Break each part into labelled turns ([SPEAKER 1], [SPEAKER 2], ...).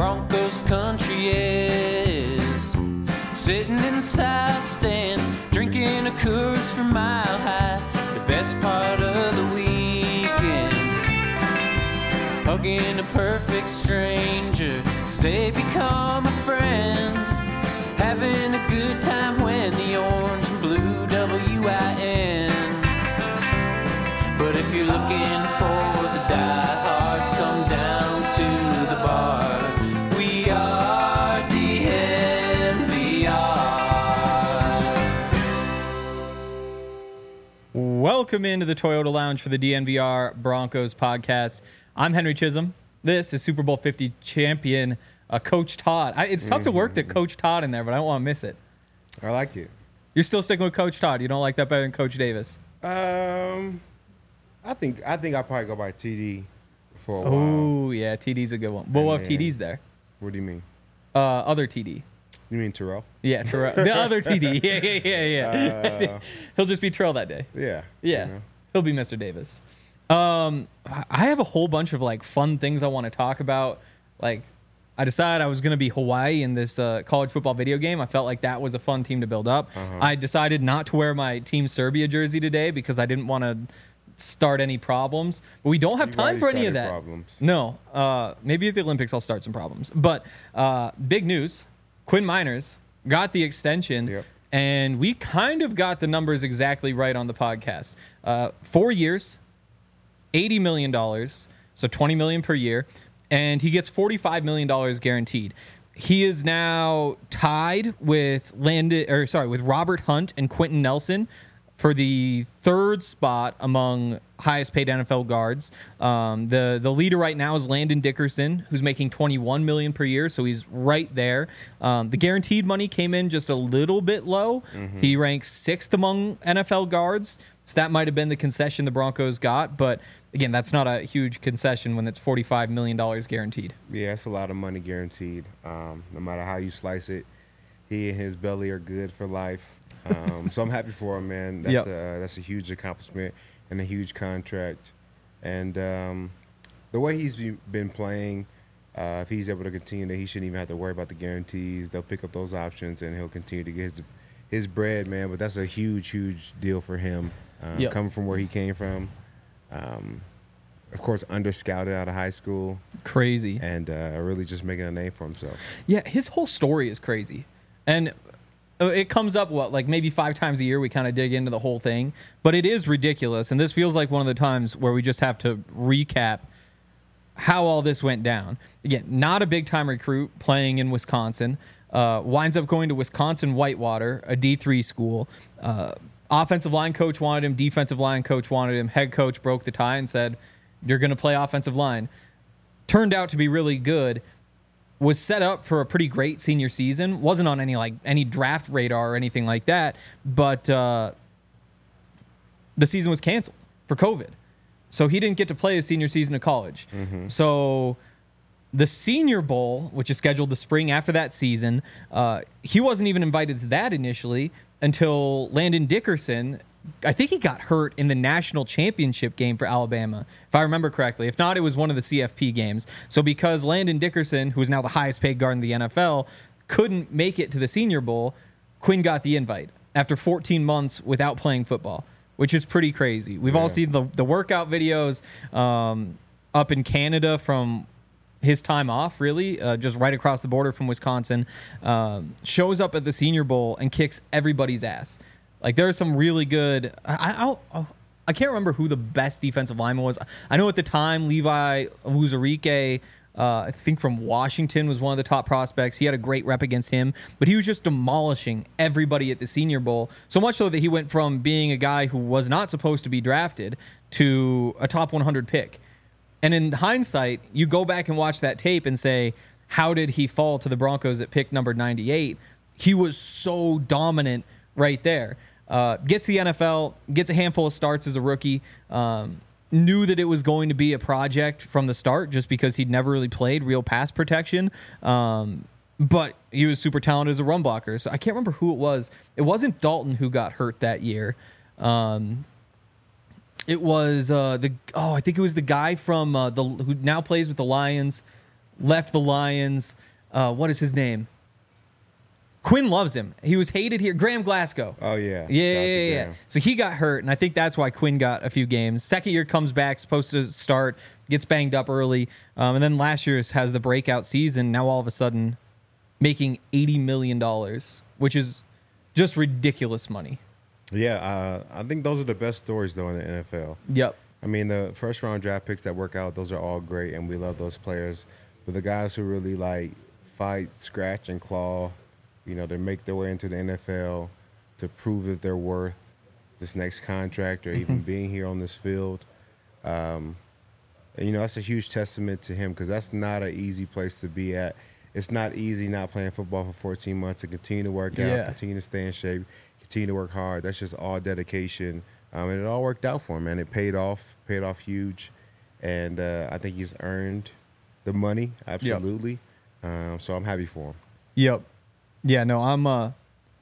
[SPEAKER 1] Broncos country is. Sitting in the south stands, drinking a Coors from Mile High. The best part of the weekend, hugging a perfect stranger as they become a friend. Having a good time when the orange and blue WIN. But if you're looking for the diehards, come down to the bar. We are DNVR.
[SPEAKER 2] Welcome into the Toyota Lounge for the DNVR Broncos podcast. I'm Henry Chisholm. This is Super Bowl 50 champion Coach Todd. It's tough to work that Coach Todd in there, but I don't want to miss it.
[SPEAKER 3] I like it.
[SPEAKER 2] You're still sticking with Coach Todd. You don't like that better than Coach Davis?
[SPEAKER 3] I think I'll probably go by TD for a while.
[SPEAKER 2] Oh, yeah, TD's a good one. But what if TD's there?
[SPEAKER 3] What do you mean?
[SPEAKER 2] Other TD.
[SPEAKER 3] You mean Terrell?
[SPEAKER 2] Yeah, Terrell. The other TD. Yeah. He'll just be Terrell that day.
[SPEAKER 3] Yeah.
[SPEAKER 2] Yeah.
[SPEAKER 3] You know.
[SPEAKER 2] He'll be Mr. Davis. I have a whole bunch of like fun things I want to talk about. Like, I decided I was going to be Hawaii in this college football video game. I felt like that was a fun team to build up. I decided not to wear my Team Serbia jersey today because I didn't want to start any problems. But we don't have time for any of that.
[SPEAKER 3] Problems.
[SPEAKER 2] No. Maybe at the Olympics I'll start some problems. But big news. Quinn Miners got the extension.
[SPEAKER 3] Yep.
[SPEAKER 2] And we kind of got the numbers exactly right on the podcast. 4 years, $80 million, so $20 million per year. And he gets $45 million guaranteed. He is now tied with Robert Hunt and Quentin Nelson for the third spot among highest paid NFL guards. The leader right now is Landon Dickerson, who's making $21 million per year, so he's right there. The guaranteed money came in just a little bit low. He ranks sixth among NFL guards, so that might have been the concession the Broncos got, but again, that's not a huge concession when it's $45 million guaranteed.
[SPEAKER 3] Yeah, it's a lot of money guaranteed. No matter how you slice it, he and his belly are good for life. So I'm happy for him, man. That's a huge accomplishment and a huge contract. And the way he's been playing, if he's able to continue, that he shouldn't even have to worry about the guarantees. They'll pick up those options, and he'll continue to get his bread, man. But that's a huge, huge deal for him, coming from where he came from. Of course, under-scouted out of high school.
[SPEAKER 2] Crazy.
[SPEAKER 3] And really just making a name for himself.
[SPEAKER 2] Yeah, his whole story is crazy. And it comes up, maybe 5 times a year we kind of dig into the whole thing. But it is ridiculous. And this feels like one of the times where we just have to recap how all this went down. Again, not a big-time recruit playing in Wisconsin. Winds up going to Wisconsin Whitewater, a D3 school. Offensive line coach wanted him. Defensive line coach wanted him. Head coach broke the tie and said, you're going to play offensive line. Turned out to be really good. Was set up for a pretty great senior season. Wasn't on any draft radar or anything like that. But the season was canceled for COVID. So he didn't get to play his senior season of college. So the Senior Bowl, which is scheduled the spring after that season, he wasn't even invited to that initially until Landon Dickerson, I think he got hurt in the national championship game for Alabama, if I remember correctly. If not, it was one of the CFP games. So because Landon Dickerson, who is now the highest paid guard in the NFL, couldn't make it to the Senior Bowl, Quinn got the invite after 14 months without playing football, which is pretty crazy. We've all seen the workout videos up in Canada from his time off, really, just right across the border from Wisconsin, shows up at the Senior Bowl and kicks everybody's ass. Like, there's some really good... I can't remember who the best defensive lineman was. I know at the time, Levi Wuzarike, I think from Washington, was one of the top prospects. He had a great rep against him, but he was just demolishing everybody at the Senior Bowl, so much so that he went from being a guy who was not supposed to be drafted to a top 100 pick. And in hindsight, you go back and watch that tape and say, how did he fall to the Broncos at pick number 98? He was so dominant right there. Gets to the NFL, gets a handful of starts as a rookie, knew that it was going to be a project from the start just because he'd never really played real pass protection. But he was super talented as a run blocker. So I can't remember who it was. It wasn't Dalton who got hurt that year. It was I think it was the guy from who now plays with the Lions. left the Lions. What is his name? Quinn loves him. He was hated here. Graham Glasgow.
[SPEAKER 3] Oh, yeah.
[SPEAKER 2] Yeah. So he got hurt, and I think that's why Quinn got a few games. Second year comes back, supposed to start, gets banged up early. And then last year has the breakout season. Now all of a sudden making $80 million, which is just ridiculous money.
[SPEAKER 3] Yeah, I think those are the best stories, though, in the NFL.
[SPEAKER 2] Yep.
[SPEAKER 3] I mean, the first-round draft picks that work out, those are all great, and we love those players. But the guys who really, like, fight, scratch, and claw, you know, they make their way into the NFL to prove that they're worth this next contract or even being here on this field. And, you know, that's a huge testament to him because that's not an easy place to be at. It's not easy not playing football for 14 months to continue to work out, continue to stay in shape, continue to work hard. That's just all dedication. And it all worked out for him, man. It paid off huge. And I think he's earned the money, absolutely. So I'm happy for him.
[SPEAKER 2] Yep. Yeah, no, I'm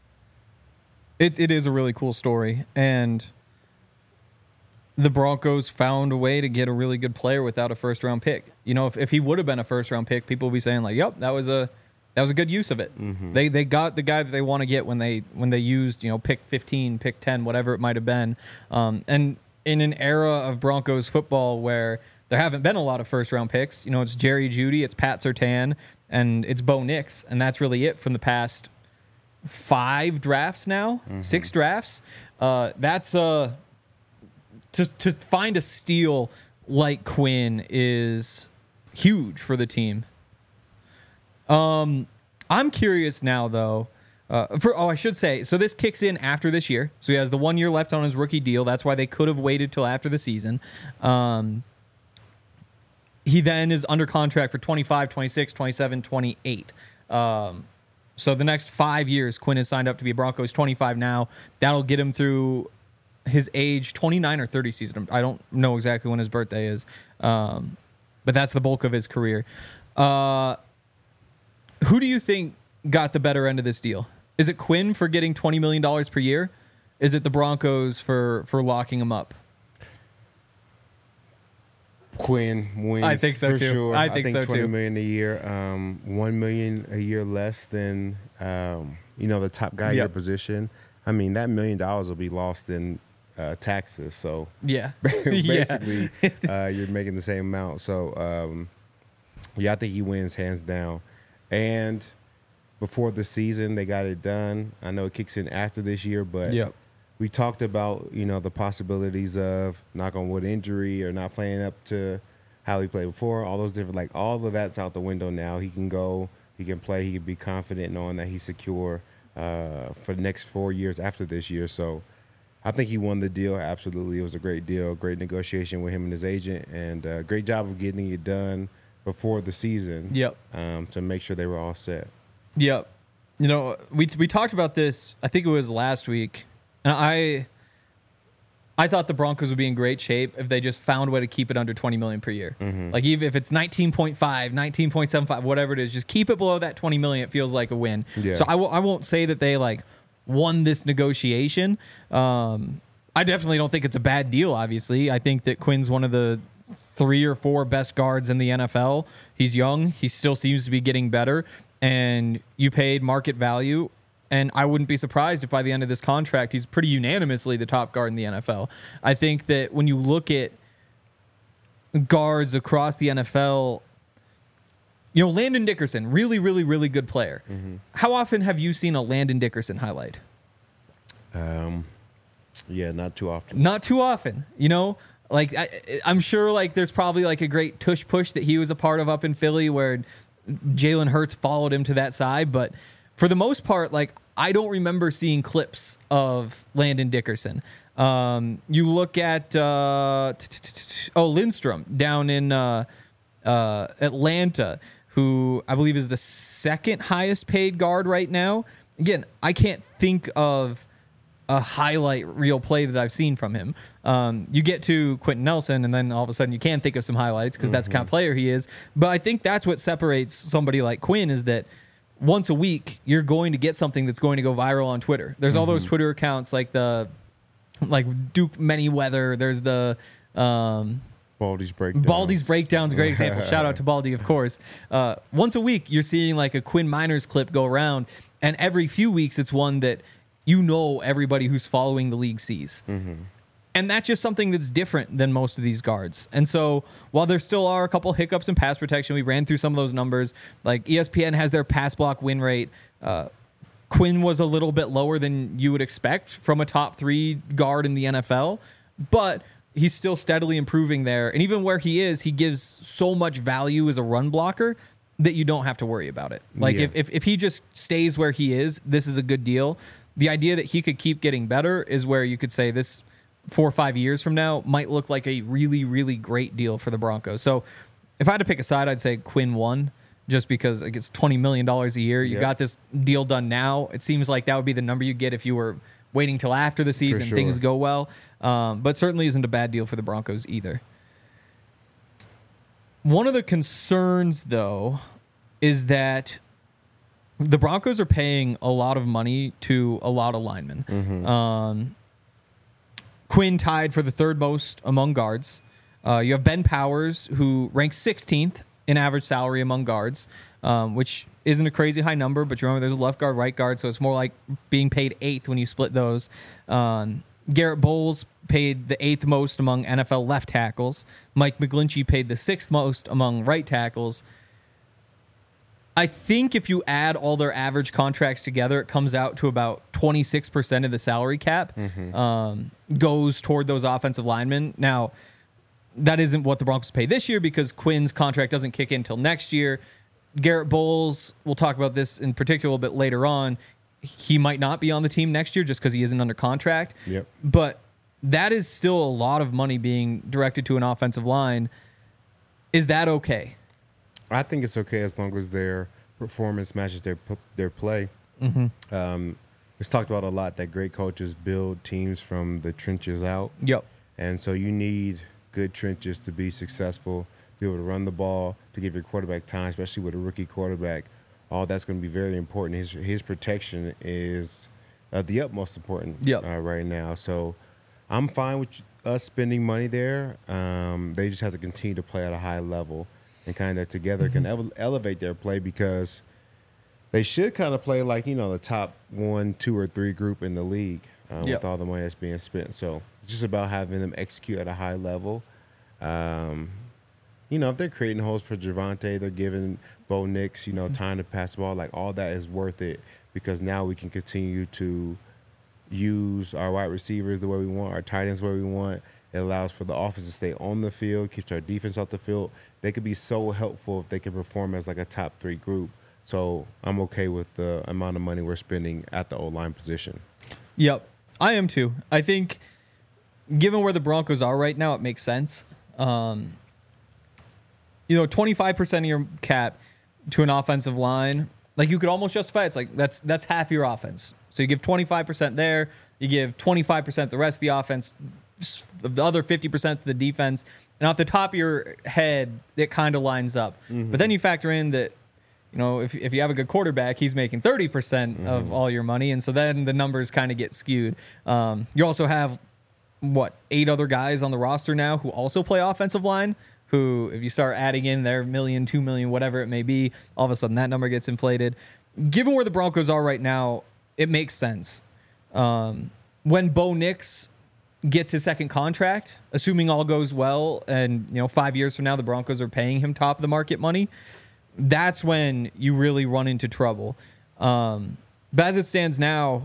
[SPEAKER 2] it is a really cool story, and the Broncos found a way to get a really good player without a first round pick. You know, if he would have been a first round pick, people would be saying like, "Yep, that was a good use of it." They got the guy that they want to get when they used, you know, pick 15, pick 10, whatever it might have been. And in an era of Broncos football where there haven't been a lot of first round picks, you know, it's Jerry Jeudy, it's Pat Surtain, and it's Bo Nix, and that's really it from the past 5 drafts now, 6 drafts. That's to find a steal like Quinn is huge for the team. I'm curious now though. I should say, so this kicks in after this year. So he has the 1 year left on his rookie deal. That's why they could have waited till after the season. He then is under contract for 25, 26, 27, 28. So the next 5 years, Quinn is signed up to be a Bronco. He's 25 now. That'll get him through his age 29 or 30 season. I don't know exactly when his birthday is, but that's the bulk of his career. Who do you think got the better end of this deal? Is it Quinn for getting $20 million per year? Is it the Broncos for locking him up?
[SPEAKER 3] Quinn wins.
[SPEAKER 2] I think so
[SPEAKER 3] for
[SPEAKER 2] too.
[SPEAKER 3] Sure.
[SPEAKER 2] I think so too.
[SPEAKER 3] $20 million a year, $1 million a year less than the top guy in your position. I mean, that $1 million will be lost in taxes. So
[SPEAKER 2] yeah,
[SPEAKER 3] basically, you're making the same amount. So I think he wins hands down. And before the season, they got it done. I know it kicks in after this year, but we talked about, the possibilities of, knock on wood, injury or not playing up to how he played before. All those different, all of that's out the window now. He can go, he can play, he can be confident knowing that he's secure for the next 4 years after this year. So I think he won the deal. Absolutely. It was a great deal, great negotiation with him and his agent, and great job of getting it done before the season to make sure they were all set.
[SPEAKER 2] Yep. We talked about this, I think it was last week, and I thought the Broncos would be in great shape if they just found a way to keep it under $20 million per year. Like even if it's 19.5, 19.75, whatever it is, just keep it below that $20 million. It feels like a win. Yeah. So I won't say that they won this negotiation. I definitely don't think it's a bad deal. Obviously, I think that Quinn's one of the 3 or 4 best guards in the NFL. He's young. He still seems to be getting better. And you paid market value. And I wouldn't be surprised if by the end of this contract, he's pretty unanimously the top guard in the NFL. I think that when you look at guards across the NFL, Landon Dickerson, really, really, really good player. How often have you seen a Landon Dickerson highlight?
[SPEAKER 3] Yeah, not too often.
[SPEAKER 2] Not too often. I'm sure there's probably a great tush push that he was a part of up in Philly where Jalen Hurts followed him to that side, but for the most part, I don't remember seeing clips of Landon Dickerson. You look at Lindstrom down in Atlanta, who I believe is the second highest paid guard right now. Again, I can't think of a highlight reel play that I've seen from him. You get to Quentin Nelson, and then all of a sudden you can think of some highlights because that's the kind of player he is. But I think that's what separates somebody like Quinn is that once a week you're going to get something that's going to go viral on Twitter. There's all those Twitter accounts like Duke Manyweather. There's the
[SPEAKER 3] Baldy's Breakdowns.
[SPEAKER 2] Baldy's Breakdowns, great example. Shout out to Baldy, of course. Once a week, you're seeing like a Quinn Miners clip go around, and every few weeks, it's one that everybody who's following the league sees. And that's just something that's different than most of these guards. And so while there still are a couple hiccups in pass protection, we ran through some of those numbers. Like ESPN has their pass block win rate. Quinn was a little bit lower than you would expect from a top 3 guard in the NFL, but he's still steadily improving there. And even where he is, he gives so much value as a run blocker that you don't have to worry about it. Like if he just stays where he is, this is a good deal. The idea that he could keep getting better is where you could say this 4 or 5 years from now might look like a really, really great deal for the Broncos. So if I had to pick a side, I'd say Quinn 1, just because it gets $20 million a year. You got this deal done now. It seems like that would be the number you get if you were waiting till after the season, things go well. But certainly isn't a bad deal for the Broncos either. One of the concerns, though, is that the Broncos are paying a lot of money to a lot of linemen. Quinn tied for the 3rd most among guards. You have Ben Powers, who ranks 16th in average salary among guards, which isn't a crazy high number, but you remember there's a left guard, right guard, so it's more like being paid 8th when you split those. Garrett Bowles paid the 8th most among NFL left tackles. Mike McGlinchey paid the 6th most among right tackles. I think if you add all their average contracts together, it comes out to about 26% of the salary cap goes toward those offensive linemen. Now, that isn't what the Broncos pay this year because Quinn's contract doesn't kick in until next year. Garrett Bowles, we'll talk about this in particular a bit later on. He might not be on the team next year just because he isn't under contract. But that is still a lot of money being directed to an offensive line. Is that okay?
[SPEAKER 3] I think it's okay as long as their performance matches their play. It's talked about a lot that great coaches build teams from the trenches out. And so you need good trenches to be successful, to be able to run the ball, to give your quarterback time, especially with a rookie quarterback. All that's going to be very important. His protection is the utmost important right now. So I'm fine with us spending money there. They just have to continue to play at a high level and kind of together can elevate their play because they should kind of play like, the top 1, 2, or 3 group in the league with all the money that's being spent. So it's just about having them execute at a high level. If they're creating holes for Javonte, they're giving Bo Nix, time to pass the ball, like all that is worth it because now we can continue to use our wide receivers the way we want, our tight ends the way we want. It allows for the offense to stay on the field, keeps our defense off the field. They could be so helpful if they can perform as like a top 3 group. So I'm okay with the amount of money we're spending at the O-line position.
[SPEAKER 2] Yep, I am too. I think given where the Broncos are right now, it makes sense. 25% of your cap to an offensive line, like you could almost justify it. It's like that's half your offense. So you give 25% there, you give 25% the rest of the offense, the other 50% to the defense, and off the top of your head, it kind of lines up. But then you factor in that, if you have a good quarterback, he's making 30% of all your money, and so then the numbers kind of get skewed. You also have 8 other guys on the roster now who also play offensive line, who, if you start adding in their $1 million, $2 million, whatever it may be, all of a sudden that number gets inflated. Given where the Broncos are right now, it makes sense. When Bo Nix gets his second contract, assuming all goes well, and 5 years from now the Broncos are paying him top of the market money, that's when you really run into trouble. But as it stands now,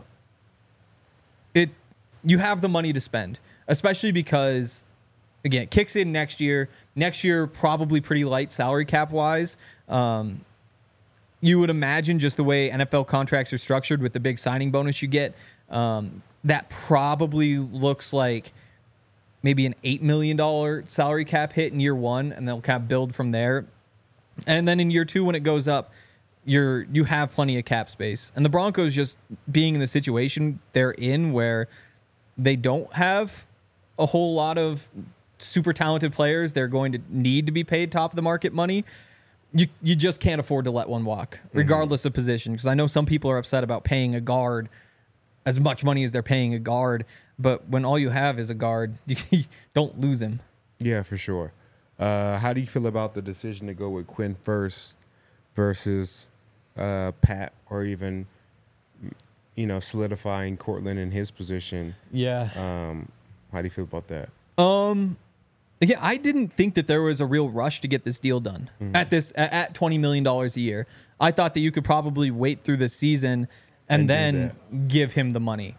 [SPEAKER 2] you have the money to spend, especially because, again, it kicks in next year. Next year, probably pretty light salary cap wise. You would imagine just the way NFL contracts are structured with the big signing bonus you get, that probably looks like maybe an $8 million salary cap hit in year 1, and they'll kind of build from there. And then in year 2, when it goes up, you have plenty of cap space. And the Broncos just being in the situation they're in where they don't have a whole lot of super talented players they're going to need to be paid top of the market money, you just can't afford to let one walk, regardless of position. Because I know some people are upset about paying a guard as much money as they're paying a guard, but when all you have is a guard, you don't lose him.
[SPEAKER 3] Yeah, for sure. How do you feel about the decision to go with Quinn first versus Pat, or even solidifying Cortland in his position?
[SPEAKER 2] Yeah.
[SPEAKER 3] How do you feel about that?
[SPEAKER 2] Yeah, I didn't think that there was a real rush to get this deal done at $20 million a year. I thought that you could probably wait through the season and then give him the money.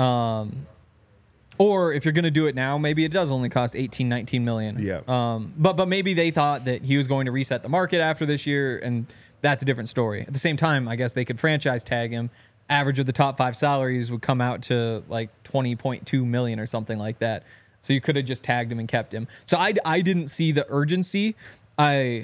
[SPEAKER 2] Or if you're going to do it now, maybe it does only cost 18, 19 million.
[SPEAKER 3] Yeah.
[SPEAKER 2] But maybe they thought that he was going to reset the market after this year, and that's a different story. At the same time, I guess they could franchise tag him. Average of the top 5 salaries would come out to like 20.2 million or something like that. So you could have just tagged him and kept him. So I didn't see the urgency. I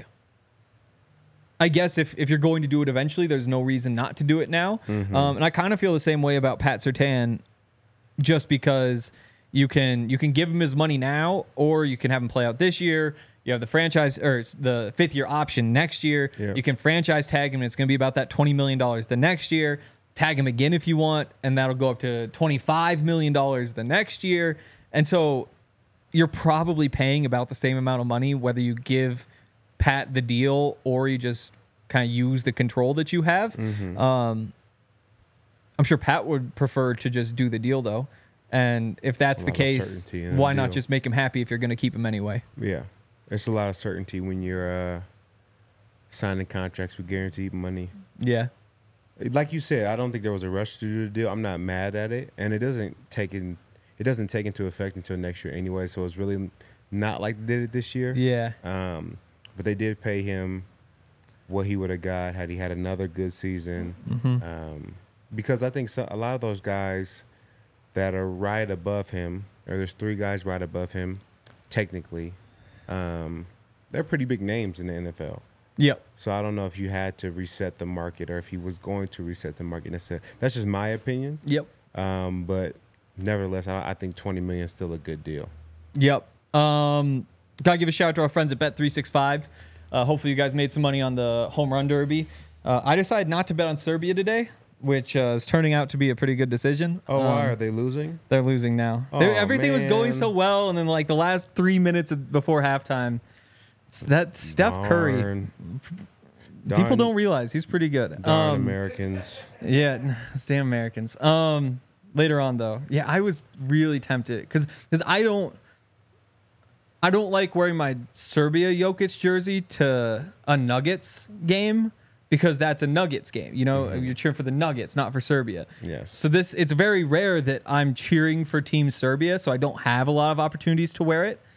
[SPEAKER 2] guess if you're going to do it eventually, there's no reason not to do it now.
[SPEAKER 3] Mm-hmm.
[SPEAKER 2] And I kind of feel the same way about Pat Surtain, just because you can give him his money now, or you can have him play out this year. You have the franchise or the 5th year option next year.
[SPEAKER 3] Yeah.
[SPEAKER 2] You can franchise tag him, and it's going to be about that $20 million the next year. Tag him again if you want, and that'll go up to $25 million the next year. And so you're probably paying about the same amount of money, whether you give Pat the deal or you just kind of use the control that you have.
[SPEAKER 3] Mm-hmm.
[SPEAKER 2] I'm sure Pat would prefer to just do the deal, though. And if that's the case, why not just make him happy if you're going to keep him anyway?
[SPEAKER 3] Yeah. There's a lot of certainty when you're signing contracts with guaranteed money.
[SPEAKER 2] Yeah.
[SPEAKER 3] Like you said, I don't think there was a rush to do the deal. I'm not mad at it, and it doesn't take into effect until next year anyway. So it's really not like they did it this year.
[SPEAKER 2] Yeah.
[SPEAKER 3] But they did pay him what he would have got had he had another good season.
[SPEAKER 2] Mm-hmm.
[SPEAKER 3] Because I think a lot of those guys that are right above him, or there's 3 guys right above him, technically, they're pretty big names in the NFL.
[SPEAKER 2] Yep.
[SPEAKER 3] So I don't know if you had to reset the market, or if he was going to reset the market. That's just my opinion.
[SPEAKER 2] Yep.
[SPEAKER 3] But nevertheless, I think $20 million is still a good deal.
[SPEAKER 2] Yep. Gotta give a shout out to our friends at Bet365. Hopefully you guys made some money on the home run derby. I decided not to bet on Serbia today, which is turning out to be a pretty good decision.
[SPEAKER 3] Oh, why are they losing?
[SPEAKER 2] They're losing now.
[SPEAKER 3] Oh,
[SPEAKER 2] Everything was going
[SPEAKER 3] man.
[SPEAKER 2] so well, and then like the last 3 minutes before halftime, that Steph Curry. People
[SPEAKER 3] Darn-
[SPEAKER 2] don't realize he's pretty good.
[SPEAKER 3] Darn Americans.
[SPEAKER 2] Yeah, it's damn Americans. Later on though, yeah, I was really tempted because I don't like wearing my Serbia Jokic jersey to a Nuggets game, because that's a Nuggets game. You know, you're cheering for the Nuggets, not for Serbia.
[SPEAKER 3] Yes.
[SPEAKER 2] So it's very rare that I'm cheering for Team Serbia, so I don't have a lot of opportunities to wear it.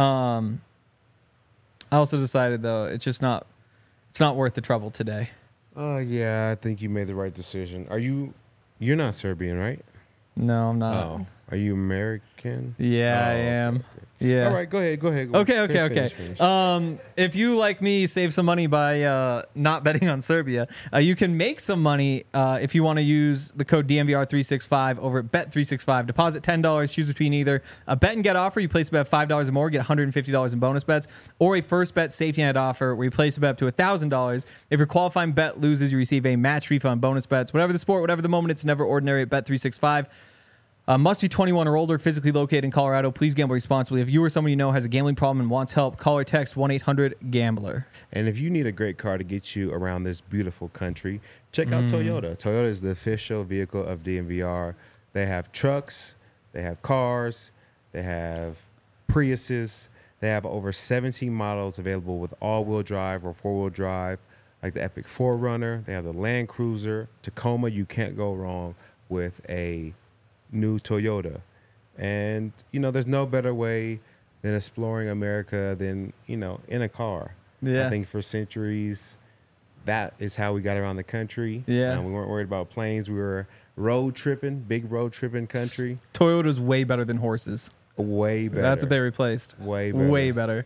[SPEAKER 2] I also decided though it's not worth the trouble today.
[SPEAKER 3] Yeah, I think you made the right decision. You're not Serbian, right?
[SPEAKER 2] No, I'm not.
[SPEAKER 3] Oh, are you American?
[SPEAKER 2] Yeah, I
[SPEAKER 3] okay,
[SPEAKER 2] am.
[SPEAKER 3] okay.
[SPEAKER 2] Yeah.
[SPEAKER 3] All right, go ahead.
[SPEAKER 2] Okay.
[SPEAKER 3] Finish.
[SPEAKER 2] If you, like me, save some money by not betting on Serbia, you can make some money if you want to use the code DNVR365 over at Bet365. Deposit $10, choose between either a bet and get offer, you place a bet of $5 or more, get $150 in bonus bets, or a first bet safety net offer where you place a bet up to $1,000. If your qualifying bet loses, you receive a match refund bonus bets. Whatever the sport, whatever the moment, it's never ordinary at Bet365. Must be 21 or older, physically located in Colorado. Please gamble responsibly. If you or someone you know has a gambling problem and wants help, call or text 1-800-GAMBLER.
[SPEAKER 3] And if you need a great car to get you around this beautiful country, check out Toyota. Toyota is the official vehicle of DNVR. They have trucks, they have cars, they have Priuses. They have over 17 models available with all-wheel drive or four-wheel drive, like the Epic 4Runner. They have the Land Cruiser, Tacoma. You can't go wrong with a new Toyota. And, there's no better way than exploring America than, in a car.
[SPEAKER 2] Yeah.
[SPEAKER 3] I think for centuries, that is how we got around the country.
[SPEAKER 2] Yeah.
[SPEAKER 3] We weren't worried about planes. We were big road tripping country.
[SPEAKER 2] Toyota's way better than horses.
[SPEAKER 3] Way better.
[SPEAKER 2] That's what they replaced.
[SPEAKER 3] Way better.
[SPEAKER 2] Way better.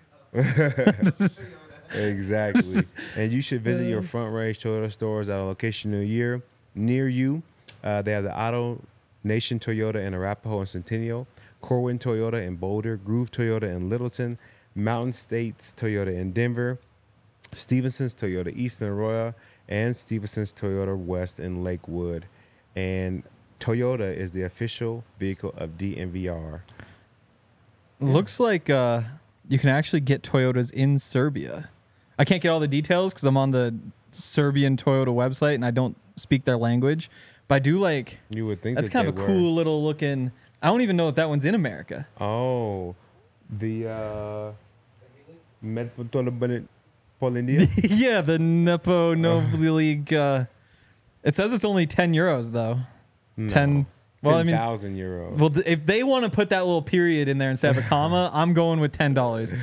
[SPEAKER 3] Exactly. And you should visit your Front Range Toyota stores at a location near you. They have the Auto Nation Toyota in Arapahoe and Centennial, Corwin Toyota in Boulder, Groove Toyota in Littleton, Mountain States Toyota in Denver, Stevenson's Toyota East in Arroyo, and Stevenson's Toyota West in Lakewood. And Toyota is the official vehicle of DNVR.
[SPEAKER 2] Looks like you can actually get Toyotas in Serbia. I can't get all the details because I'm on the Serbian Toyota website and I don't speak their language. But I do like.
[SPEAKER 3] You would think
[SPEAKER 2] that's kind of a cool little looking. I don't even know if that one's in America.
[SPEAKER 3] Oh, the Metropolitan.
[SPEAKER 2] Yeah, the Nepo Novi League. It says it's only €10 though.
[SPEAKER 3] No.
[SPEAKER 2] 10. Well,
[SPEAKER 3] 10,000 euros.
[SPEAKER 2] Well, if they want to put that little period in there instead of a comma, I'm going with $10.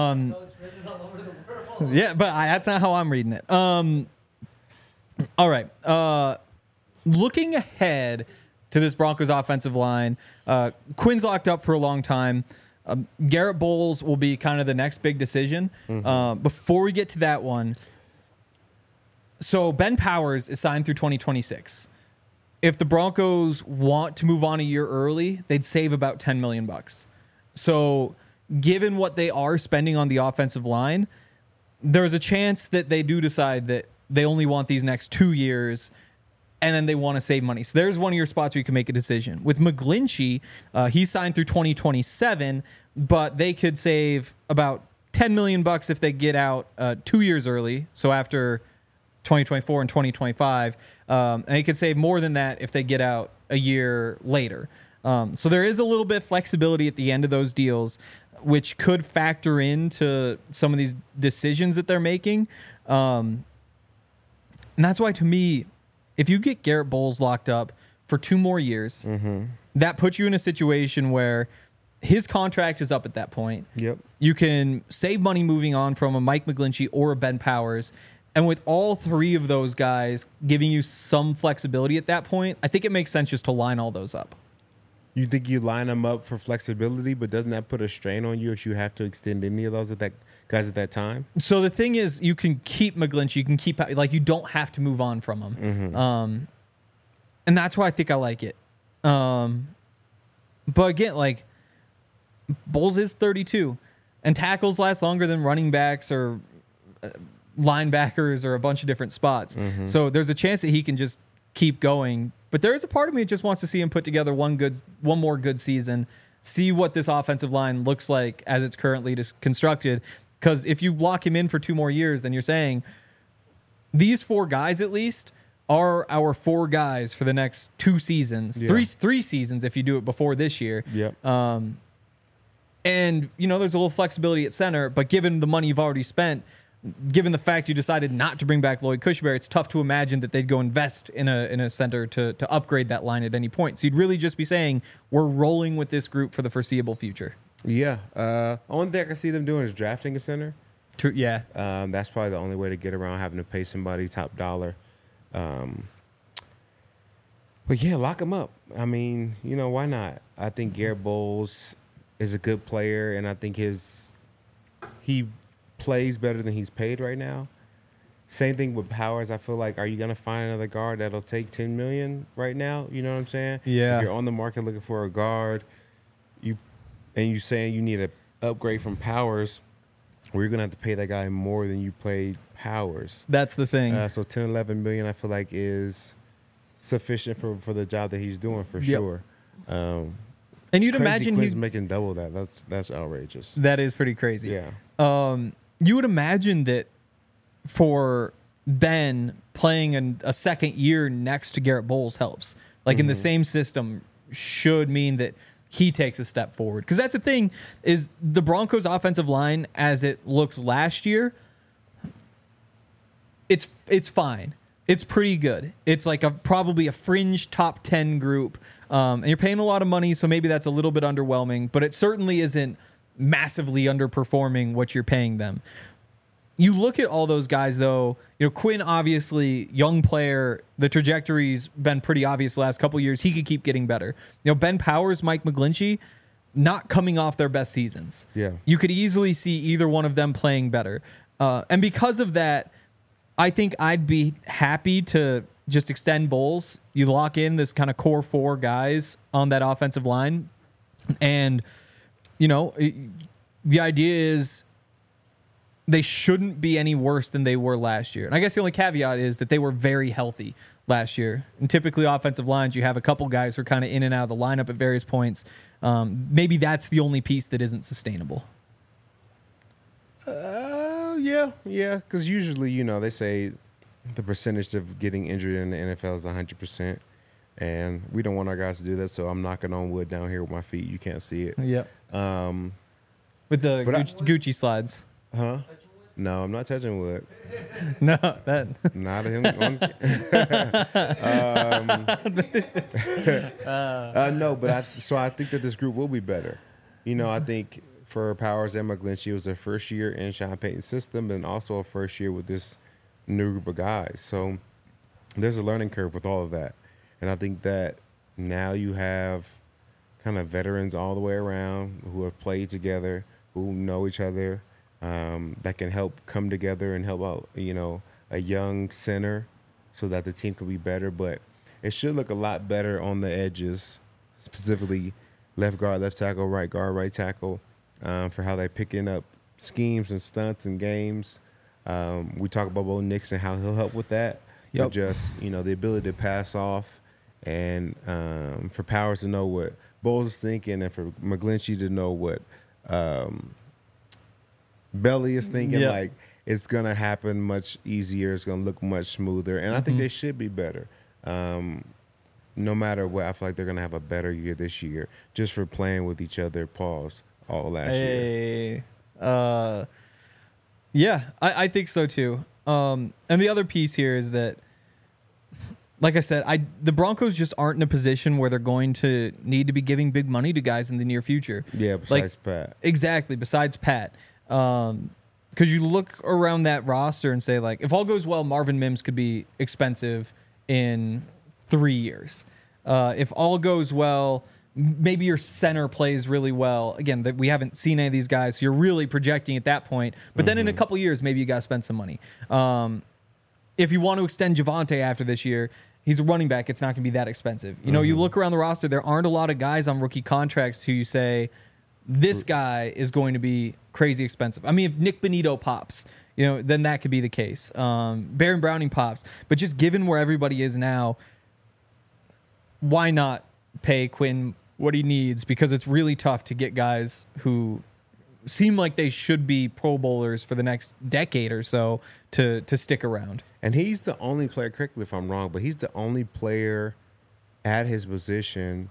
[SPEAKER 2] Yeah, but that's not how I'm reading it. All right. Looking ahead to this Broncos offensive line, Quinn's locked up for a long time. Garrett Bowles will be kind of the next big decision. Before we get to that one, so Ben Powers is signed through 2026. If the Broncos want to move on a year early, they'd save about $10 million. So given what they are spending on the offensive line, there's a chance that they do decide that they only want these next 2 years and then they want to save money. So there's one of your spots where you can make a decision. With McGlinchey, he's signed through 2027, but they could save about $10 million if they get out 2 years early. So after 2024 and 2025, and they could save more than that if they get out a year later. So there is a little bit of flexibility at the end of those deals, which could factor into some of these decisions that they're making. And that's why, to me, if you get Garrett Bowles locked up for 2 more years, that puts you in a situation where his contract is up at that point.
[SPEAKER 3] Yep.
[SPEAKER 2] You can save money moving on from a Mike McGlinchey or a Ben Powers. And with all 3 of those guys giving you some flexibility at that point, I think it makes sense just to line all those up.
[SPEAKER 3] You think you line them up for flexibility, but doesn't that put a strain on you if you have to extend any of those guys at that time?
[SPEAKER 2] So the thing is, you can keep McGlinchey, you can keep, like, you don't have to move on from him. And that's why I think I like it. But again, like, Bowles is 32, and tackles last longer than running backs or linebackers or a bunch of different spots. So there's a chance that he can just keep going. But there is a part of me that just wants to see him put together one more good season, see what this offensive line looks like as it's currently constructed. Because if you lock him in for 2 more years, then you're saying these 4 guys at least are our 4 guys for the next 2 seasons, 3 seasons if you do it before this year.
[SPEAKER 3] Yep.
[SPEAKER 2] And, you know, there's a little flexibility at center, but given the money you've already spent, given the fact you decided not to bring back Lloyd Cushenberry, it's tough to imagine that they'd go invest in a center to upgrade that line at any point. So you'd really just be saying, we're rolling with this group for the foreseeable future.
[SPEAKER 3] Yeah. Only thing I can see them doing is drafting a center.
[SPEAKER 2] True. Yeah.
[SPEAKER 3] That's probably the only way to get around having to pay somebody top dollar. But yeah, lock him up. I mean, you know, why not? I think Garrett Bowles is a good player, and I think he plays better than he's paid right now. Same thing with Powers. I feel like, are you going to find another guard that'll take $10 million right now? You know what I'm saying?
[SPEAKER 2] Yeah.
[SPEAKER 3] If you're on the market looking for a guard, you saying you need an upgrade from Powers, well, you're going to have to pay that guy more than you paid Powers.
[SPEAKER 2] That's the thing.
[SPEAKER 3] So 10, 11 million, I feel like, is sufficient for the job that he's doing for sure.
[SPEAKER 2] And you'd imagine
[SPEAKER 3] he's making double that. That's outrageous.
[SPEAKER 2] That is pretty crazy.
[SPEAKER 3] Yeah.
[SPEAKER 2] You would imagine that for Ben, playing a second year next to Garrett Bowles helps. Like, in the same system should mean that he takes a step forward. Because that's the thing, is the Broncos' offensive line, as it looked last year, it's fine. It's pretty good. It's like probably a fringe top 10 group. And you're paying a lot of money, so maybe that's a little bit underwhelming. But it certainly isn't massively underperforming what you're paying them. You look at all those guys, though. You know, Quinn, obviously, young player. The trajectory's been pretty obvious the last couple of years. He could keep getting better. You know, Ben Powers, Mike McGlinchey, not coming off their best seasons.
[SPEAKER 3] Yeah.
[SPEAKER 2] You could easily see either one of them playing better. And because of that, I think I'd be happy to just extend Bowles. You lock in this kind of core 4 guys on that offensive line. And, you know, the idea is they shouldn't be any worse than they were last year. And I guess the only caveat is that they were very healthy last year. And typically offensive lines, you have a couple guys who are kind of in and out of the lineup at various points. Maybe that's the only piece that isn't sustainable.
[SPEAKER 3] Yeah. Because usually, they say the percentage of getting injured in the NFL is 100%, and we don't want our guys to do that. So I'm knocking on wood down here with my feet. You can't see it.
[SPEAKER 2] Yep. With the Gucci slides.
[SPEAKER 3] Huh? No, I'm not touching wood.
[SPEAKER 2] No, that.
[SPEAKER 3] Not him. No, but I think that this group will be better. I think for Powers and McGlinchey, it was their first year in Sean Payton's system, and also a first year with this new group of guys. So there's a learning curve with all of that, and I think that now you have kind of veterans all the way around who have played together, who know each other. That can help come together and help out, a young center so that the team can be better. But it should look a lot better on the edges, specifically left guard, left tackle, right guard, right tackle, for how they're picking up schemes and stunts and games. We talk about Bo Nix and how he'll help with that.
[SPEAKER 2] Yep.
[SPEAKER 3] But just, the ability to pass off and for Powers to know what Bowles is thinking and for McGlinchey to know what Belly is thinking.
[SPEAKER 2] Yep.
[SPEAKER 3] Like, it's going to happen much easier. It's going to look much smoother. And I think they should be better. No matter what, I feel like they're going to have a better year this year just for playing with each other, all last year.
[SPEAKER 2] Yeah, I think so too. And the other piece here is that, like I said, the Broncos just aren't in a position where they're going to need to be giving big money to guys in the near future.
[SPEAKER 3] Yeah, besides Pat.
[SPEAKER 2] Exactly, besides Pat. Because you look around that roster and say, like, if all goes well, Marvin Mims could be expensive in 3 years. If all goes well, maybe your center plays really well. Again, we haven't seen any of these guys, so you're really projecting at that point. But then in a couple years, maybe you got to spend some money. If you want to extend Javonte after this year, he's a running back. It's not going to be that expensive. You look around the roster, there aren't a lot of guys on rookie contracts who you say, this guy is going to be crazy expensive. I mean, if Nick Bonito pops, then that could be the case. Baron Browning pops. But just given where everybody is now, why not pay Quinn what he needs? Because it's really tough to get guys who seem like they should be Pro Bowlers for the next decade or so to stick around.
[SPEAKER 3] And he's the only player, correct me if I'm wrong, but he's the only player at his position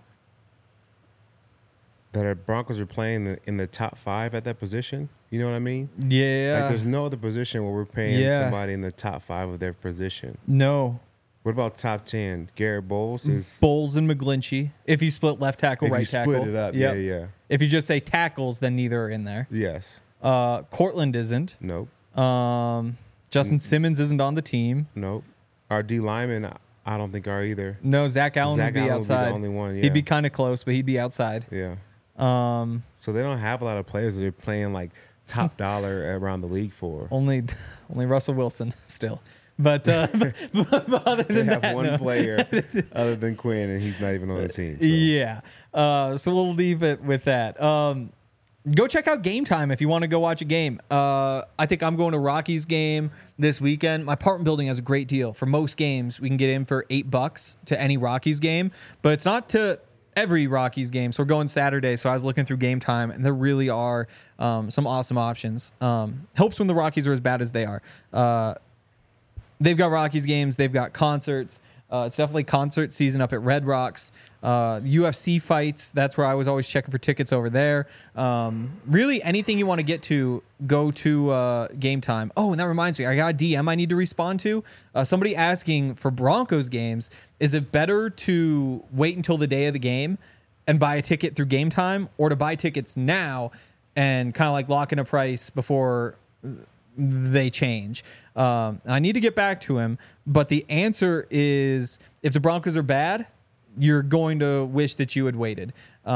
[SPEAKER 3] that our Broncos are playing in the top 5 at that position. You know what I mean?
[SPEAKER 2] Yeah.
[SPEAKER 3] Like, there's no other position where we're paying somebody in the top 5 of their position.
[SPEAKER 2] No.
[SPEAKER 3] What about top 10? Garrett Bowles is
[SPEAKER 2] Bowles and McGlinchey. If you split left tackle, right tackle.
[SPEAKER 3] Split it up, yeah.
[SPEAKER 2] If you just say tackles, then neither are in there.
[SPEAKER 3] Yes.
[SPEAKER 2] Cortland isn't.
[SPEAKER 3] Nope.
[SPEAKER 2] Justin Simmons isn't on the team.
[SPEAKER 3] Nope. Our D linemen, I don't think are either.
[SPEAKER 2] No, Zach Allen would be outside.
[SPEAKER 3] Would be the only one. Yeah.
[SPEAKER 2] He'd be kind of close, but he'd be outside.
[SPEAKER 3] Yeah. So they don't have a lot of players that are playing like top dollar around the league for.
[SPEAKER 2] Only Russell Wilson still. But other than
[SPEAKER 3] they have
[SPEAKER 2] that,
[SPEAKER 3] one player other than Quinn, and he's not even on the team. So.
[SPEAKER 2] Yeah. So we'll leave it with that. Go check out Game Time if you want to go watch a game. I think I'm going to Rockies game this weekend. My apartment building has a great deal. For most games, we can get in for $8 to any Rockies game, but it's not to every Rockies game. So we're going Saturday. So I was looking through Game Time, and there really are some awesome options. Helps when the Rockies are as bad as they are. They've got Rockies games. They've got concerts. It's definitely concert season up at Red Rocks. UFC fights. That's where I was always checking for tickets over there. Really, anything you want to get to, go to Game Time. Oh, and that reminds me, I got a DM I need to respond to. Somebody asking for Broncos games, is it better to wait until the day of the game and buy a ticket through Game Time, or to buy tickets now and kind of like lock in a price before they change? I need to get back to him, but the answer is, if the Broncos are bad, you're going to wish that you had waited,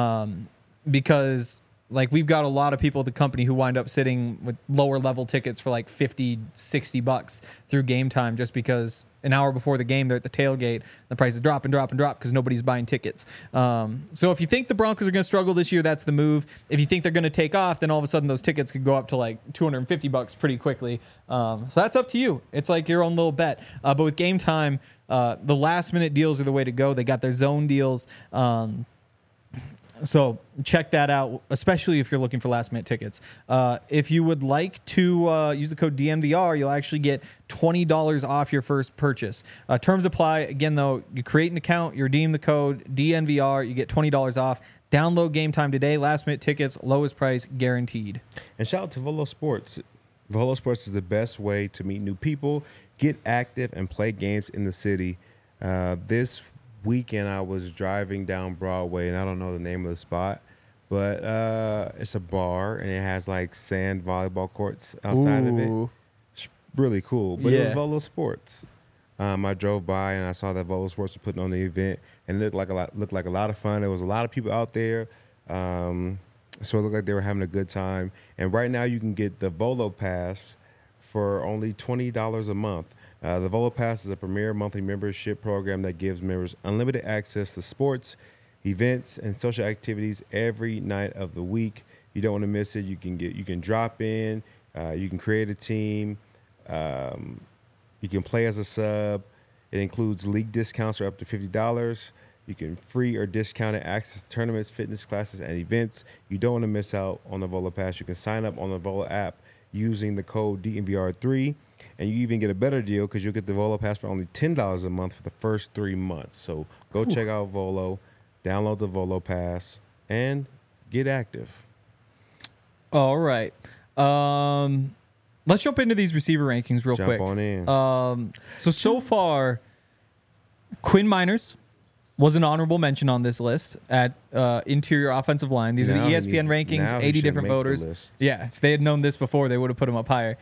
[SPEAKER 2] because like we've got a lot of people at the company who wind up sitting with lower level tickets for like $50-$60 through Game Time, just because an hour before the game they're at the tailgate, the prices drop because nobody's buying tickets. So if you think the Broncos are going to struggle this year, that's the move. If you think they're going to take off, then all of a sudden those tickets could go up to like $250 pretty quickly. So that's up to you. It's like your own little bet. But with Game Time, the last minute deals are the way to go. They got their zone deals. So check that out, especially if you're looking for last-minute tickets. If you would like to use the code DNVR, you'll actually get $20 off your first purchase. Terms apply. Again, though, you create an account, you redeem the code DNVR, you get $20 off. Download Game Time today. Last-minute tickets, lowest price guaranteed.
[SPEAKER 3] And shout out to Volo Sports. Volo Sports is the best way to meet new people, get active, and play games in the city. This weekend I was driving down Broadway, and I don't know the name of the spot, but it's a bar, and it has like sand volleyball courts outside of it. It's really cool, but it was Volo Sports. I drove by and I saw that Volo Sports was putting on the event, and it looked like a lot of fun. There was a lot of people out there, so it looked like they were having a good time. And right now you can get the Volo Pass for only $20 a month. The Volo Pass is a premier monthly membership program that gives members unlimited access to sports, events, and social activities every night of the week. You don't want to miss it. You can drop in, you can create a team, you can play as a sub. It includes league discounts for up to $50. You can free or discounted access to tournaments, fitness classes, and events. You don't want to miss out on the Volo Pass. You can sign up on the Volo app using the code DNVR3. And you even get a better deal because you'll get the Volo Pass for only $10 a month for the first 3 months. So go check out Volo, download the Volo Pass, and get active.
[SPEAKER 2] All right. Let's jump into these receiver rankings real quick.
[SPEAKER 3] Jump on in.
[SPEAKER 2] So far, Quinn Miners was an honorable mention on this list at interior offensive line. These are the ESPN rankings, 80 different voters. Yeah, if they had known this before, they would have put him up higher.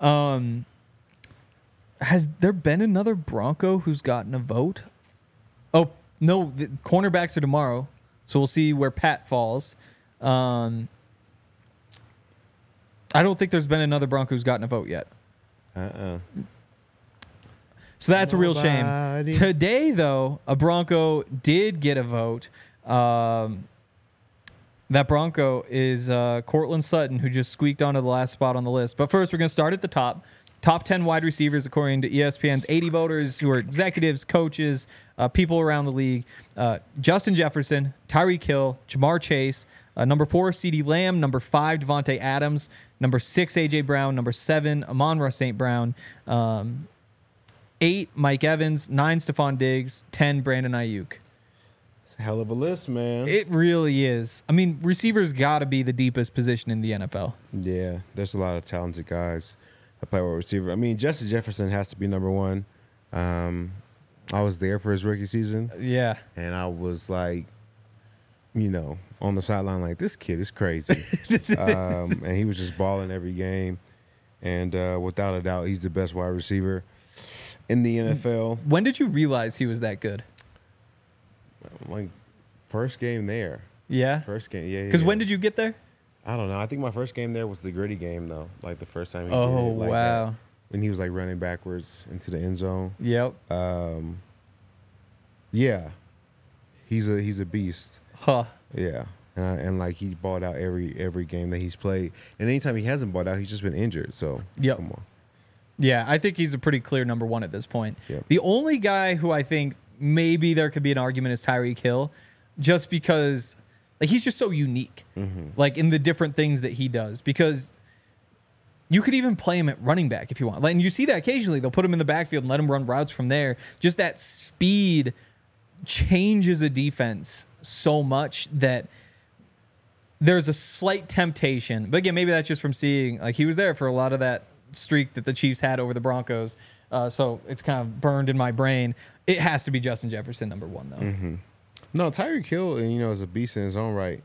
[SPEAKER 2] Has there been another Bronco who's gotten a vote? Oh, no, the cornerbacks are tomorrow, so we'll see where Pat falls. I don't think there's been another Bronco who's gotten a vote yet. So that's a real shame. Today, though, a Bronco did get a vote. That Bronco is Cortland Sutton, who just squeaked onto the last spot on the list. But first, we're going to start at the top. Top 10 wide receivers, according to ESPN's 80 voters, who are executives, coaches, people around the league. Justin Jefferson, Tyreek Hill, Jamar Chase, number 4, CeeDee Lamb, number 5, Devontae Adams, number 6, A.J. Brown, number 7, Amon-Ra St. Brown, 8, Mike Evans, 9, Stephon Diggs, 10, Brandon Ayuk.
[SPEAKER 3] It's a hell of a list, man.
[SPEAKER 2] It really is. I mean, receivers got to be the deepest position in the NFL.
[SPEAKER 3] Yeah, there's a lot of talented guys that play wide receiver. I mean, Justin Jefferson has to be number 1. I was there for his rookie season.
[SPEAKER 2] Yeah.
[SPEAKER 3] And I was like, on the sideline like, this kid is crazy. And he was just balling every game. And without a doubt, he's the best wide receiver in the NFL.
[SPEAKER 2] When did you realize he was that good?
[SPEAKER 3] Like, first game there.
[SPEAKER 2] Yeah?
[SPEAKER 3] First game, yeah.
[SPEAKER 2] Because when did you get there?
[SPEAKER 3] I don't know. I think my first game there was the Gritty game, though. Like, the first time he did
[SPEAKER 2] Oh,
[SPEAKER 3] it. Like
[SPEAKER 2] wow.
[SPEAKER 3] that. When he was, like, running backwards into the end zone.
[SPEAKER 2] Yep.
[SPEAKER 3] Yeah. He's a beast.
[SPEAKER 2] Huh.
[SPEAKER 3] Yeah. And like, he balled out every game that he's played. And anytime he hasn't balled out, he's just been injured. So,
[SPEAKER 2] yep.
[SPEAKER 3] Come on.
[SPEAKER 2] Yeah, I think he's a pretty clear number 1 at this point.
[SPEAKER 3] Yep.
[SPEAKER 2] The only guy who I think maybe there could be an argument is Tyreek Hill, just because like he's just so unique, like in the different things that he does. Because you could even play him at running back if you want. Like, and you see that occasionally. They'll put him in the backfield and let him run routes from there. Just that speed changes a defense so much that there's a slight temptation. But again, maybe that's just from seeing, like, he was there for a lot of that streak that the Chiefs had over the Broncos. So it's kind of burned in my brain. It has to be Justin Jefferson, number 1, though.
[SPEAKER 3] Mm-hmm. No, Tyreek Hill, is a beast in his own right.